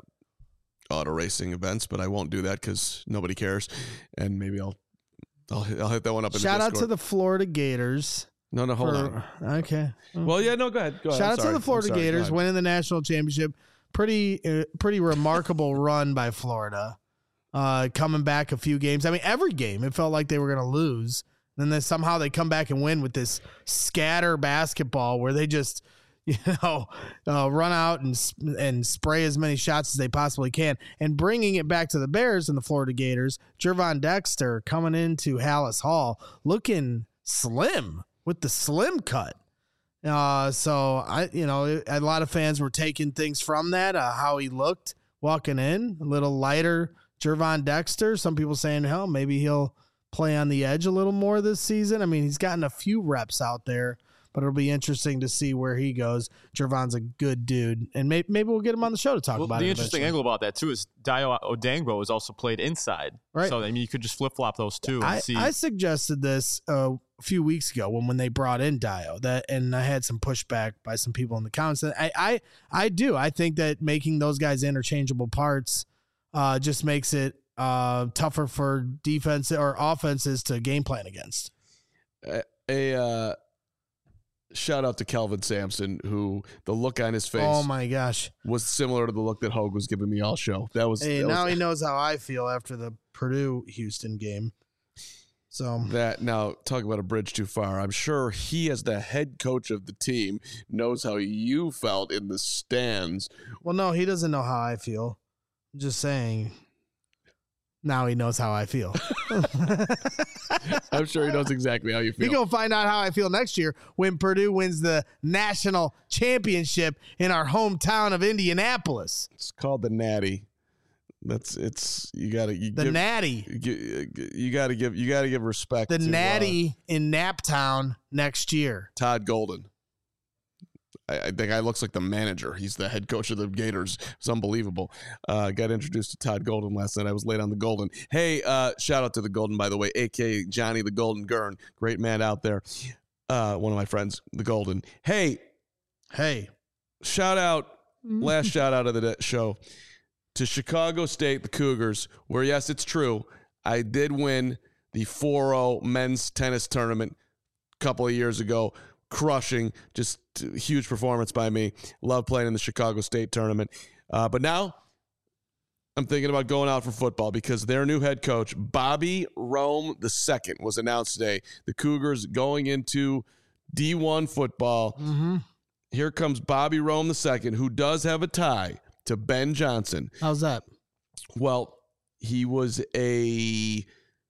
auto racing events, but I won't do that because nobody cares. And maybe I'll, I'll, I'll hit that one up. In Shout the out to the Florida Gators. No, no, hold for, on. Okay. Well, yeah, no, go ahead. Go ahead. Shout I'm out sorry. to the Florida sorry, Gators winning the national championship. Pretty, uh, pretty remarkable run by Florida. Uh, coming back a few games. I mean, every game it felt like they were going to lose. And then somehow they come back and win with this scatter basketball where they just, you know, uh, run out and and spray as many shots as they possibly can. And bringing it back to the Bears and the Florida Gators, Gervon Dexter coming into Hallis Hall looking slim with the slim cut. Uh, so I, you know, a lot of fans were taking things from that, uh, how he looked walking in, a little lighter. Gervon Dexter, some people saying, hell, maybe he'll play on the edge a little more this season. I mean, he's gotten a few reps out there, but it'll be interesting to see where he goes. Gervon's a good dude, and maybe, maybe we'll get him on the show to talk well, about the it. The interesting eventually. angle about that, too, is Dio Odangbo has also played inside. Right. So, I mean, you could just flip-flop those two and I, see. I suggested this uh, a few weeks ago when, when they brought in Dio, that, and I had some pushback by some people in the comments. I, I, I do. I think that making those guys interchangeable parts uh, just makes it uh, tougher for defense or offenses to game plan against. A, a uh, shout out to Kelvin Sampson, who the look on his face Oh my gosh. was similar to the look that Hogue was giving me all show. That was Hey, that now was, he knows how I feel after the Purdue Houston game. So that now talk about a bridge too far. I'm sure he, as the head coach of the team, knows how you felt in the stands. well, no, he doesn't know how I feel. I'm just saying. Now he knows how I feel. I'm sure he knows exactly how you feel. You're going to find out how I feel next year when Purdue wins the national championship in our hometown of Indianapolis. It's called the Natty. That's it's you gotta you The give, Natty. You, you gotta give you gotta give respect. The to, Natty uh, in Naptown next year. Todd Golden. I, I the guy looks like the manager. He's the head coach of the Gators. It's unbelievable. Uh, got introduced to Todd Golden last night. I was late on the Golden. Hey, uh, shout out to the Golden, by the way, A K A Johnny the Golden Gurn. Great man out there. Uh, one of my friends, the Golden. Hey, hey, shout out. Last shout out of the show to Chicago State, the Cougars, where, yes, it's true, I did win the four oh men's tennis tournament a couple of years ago, crushing, just huge performance by me. Love playing in the Chicago State tournament. Uh, but now I'm thinking about going out for football because their new head coach, Bobby Rome the second, was announced today. The Cougars going into D one football. Mm-hmm. Here comes Bobby Rome the second, who does have a tie to Ben Johnson. How's that? Well, he was a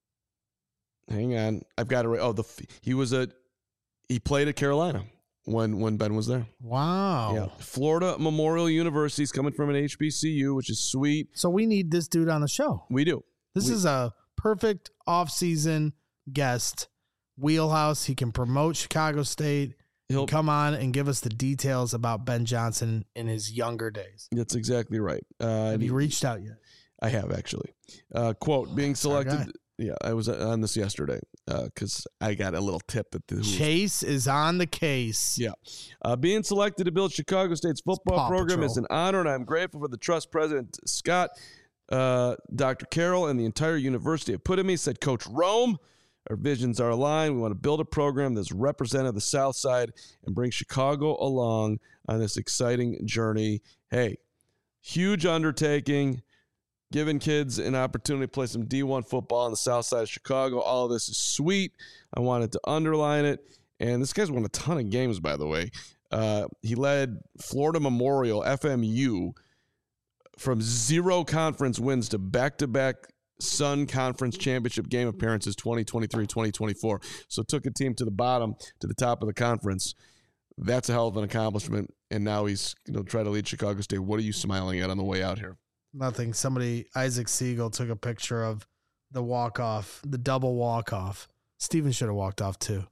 hang on, I've got it right. Oh, the he was a he played at Carolina when when Ben was there. Wow. Yeah. Florida Memorial University is coming from an H B C U, which is sweet. So we need this dude on the show. We do. This we, is a perfect off-season guest. Wheelhouse. He can promote Chicago State. He'll come on and give us the details about Ben Johnson in his younger days. That's exactly right. Uh, have you reached out yet? I have, actually. Uh, quote, being selected. Yeah, I was on this yesterday because uh, I got a little tip that the Chase is on the case. Yeah. Uh, being selected to build Chicago State's football program Patrol. is an honor, and I'm grateful for the trust President Scott, uh, Doctor Carroll, and the entire university have put in me, said Coach Rome. Our visions are aligned. We want to build a program that's representative of the South Side and bring Chicago along on this exciting journey. Hey, huge undertaking, giving kids an opportunity to play some D one football on the South Side of Chicago. All of this is sweet. I wanted to underline it. And this guy's won a ton of games, by the way. Uh, he led Florida Memorial, F M U, from zero conference wins to back-to-back Sun Conference Championship game appearances twenty twenty-three twenty twenty-four. So took a team to the bottom, to the top of the conference. That's a hell of an accomplishment. And now he's going to try to lead Chicago State. What are you smiling at on the way out here? Nothing. Somebody, Isaac Siegel, took a picture of the walk-off, the double walk-off. Steven should have walked off too.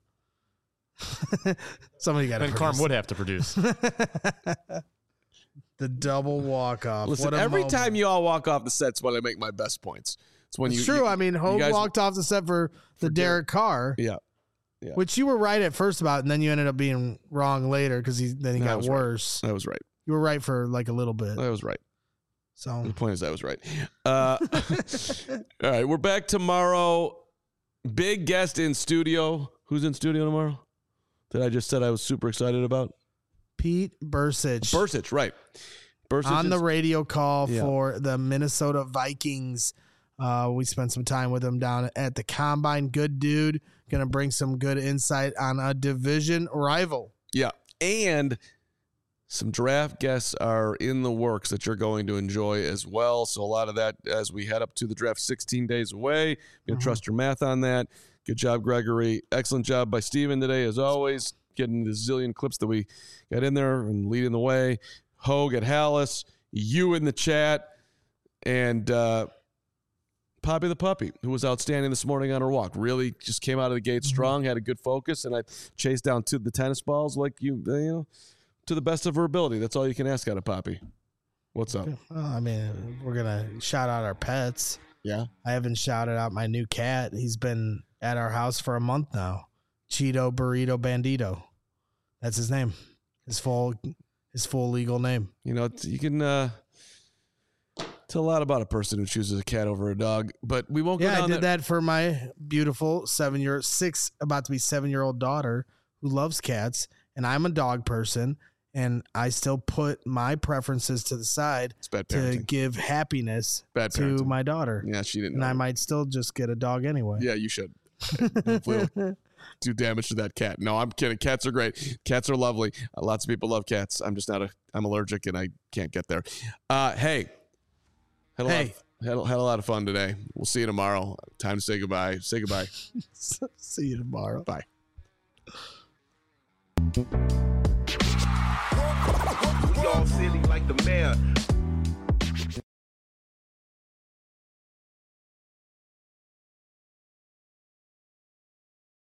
Somebody got to Ben Carm would have to produce. The double walk-off. Listen, every moment. time you all walk off the set's when I make my best points. It's when it's you. true. You, I mean, Hogue guys, walked off the set for the for Derek Carr. Yeah. yeah. Which you were right at first about, and then you ended up being wrong later because he then he that got worse. Right. I was right. You were right for like a little bit. I was right. So the point is, I was right. Uh, all right, we're back tomorrow. Big guest in studio. Who's in studio tomorrow? That I just said I was super excited about. Pete Bercich. Bercich, right. Bercich on is, the radio call yeah. for the Minnesota Vikings. Uh, we spent some time with him down at the Combine. Good dude. Going to bring some good insight on a division rival. Yeah. And some draft guests are in the works that you're going to enjoy as well. So a lot of that as we head up to the draft sixteen days away. Going to mm-hmm. trust your math on that. Good job, Gregory. Excellent job by Steven today, as always, getting the zillion clips that we got in there and leading the way. Hogue at Hallis, you in the chat, and uh, Poppy the puppy, who was outstanding this morning on her walk. Really just came out of the gate strong, had a good focus, and I chased down two the tennis balls like you, you know, to the best of her ability. That's all you can ask out of Poppy. What's up? Well, I mean, we're gonna shout out our pets. Yeah, I haven't shouted out my new cat. He's been at our house for a month now. Cheeto Burrito Bandito. That's his name. His full, his full legal name. You know, you can uh, tell a lot about a person who chooses a cat over a dog, but we won't go yeah, down I did there. that for my beautiful seven-year, six, about to be seven-year-old daughter who loves cats. and I'm a dog person, and I still put my preferences to the side to give happiness bad to parenting. my daughter. Yeah, she didn't And know. I might still just get a dog anyway. Yeah, you should. Hopefully it'll do damage to that cat. No, I'm kidding. Cats are great. Cats are lovely. Uh, lots of people love cats. I'm just not a. I'm allergic and I can't get there. Uh, hey, had a, Hey. lot of, had, a, had a lot of fun today. We'll see you tomorrow. Time to say goodbye. Say goodbye. See you tomorrow. Bye. We all silly like the mayor.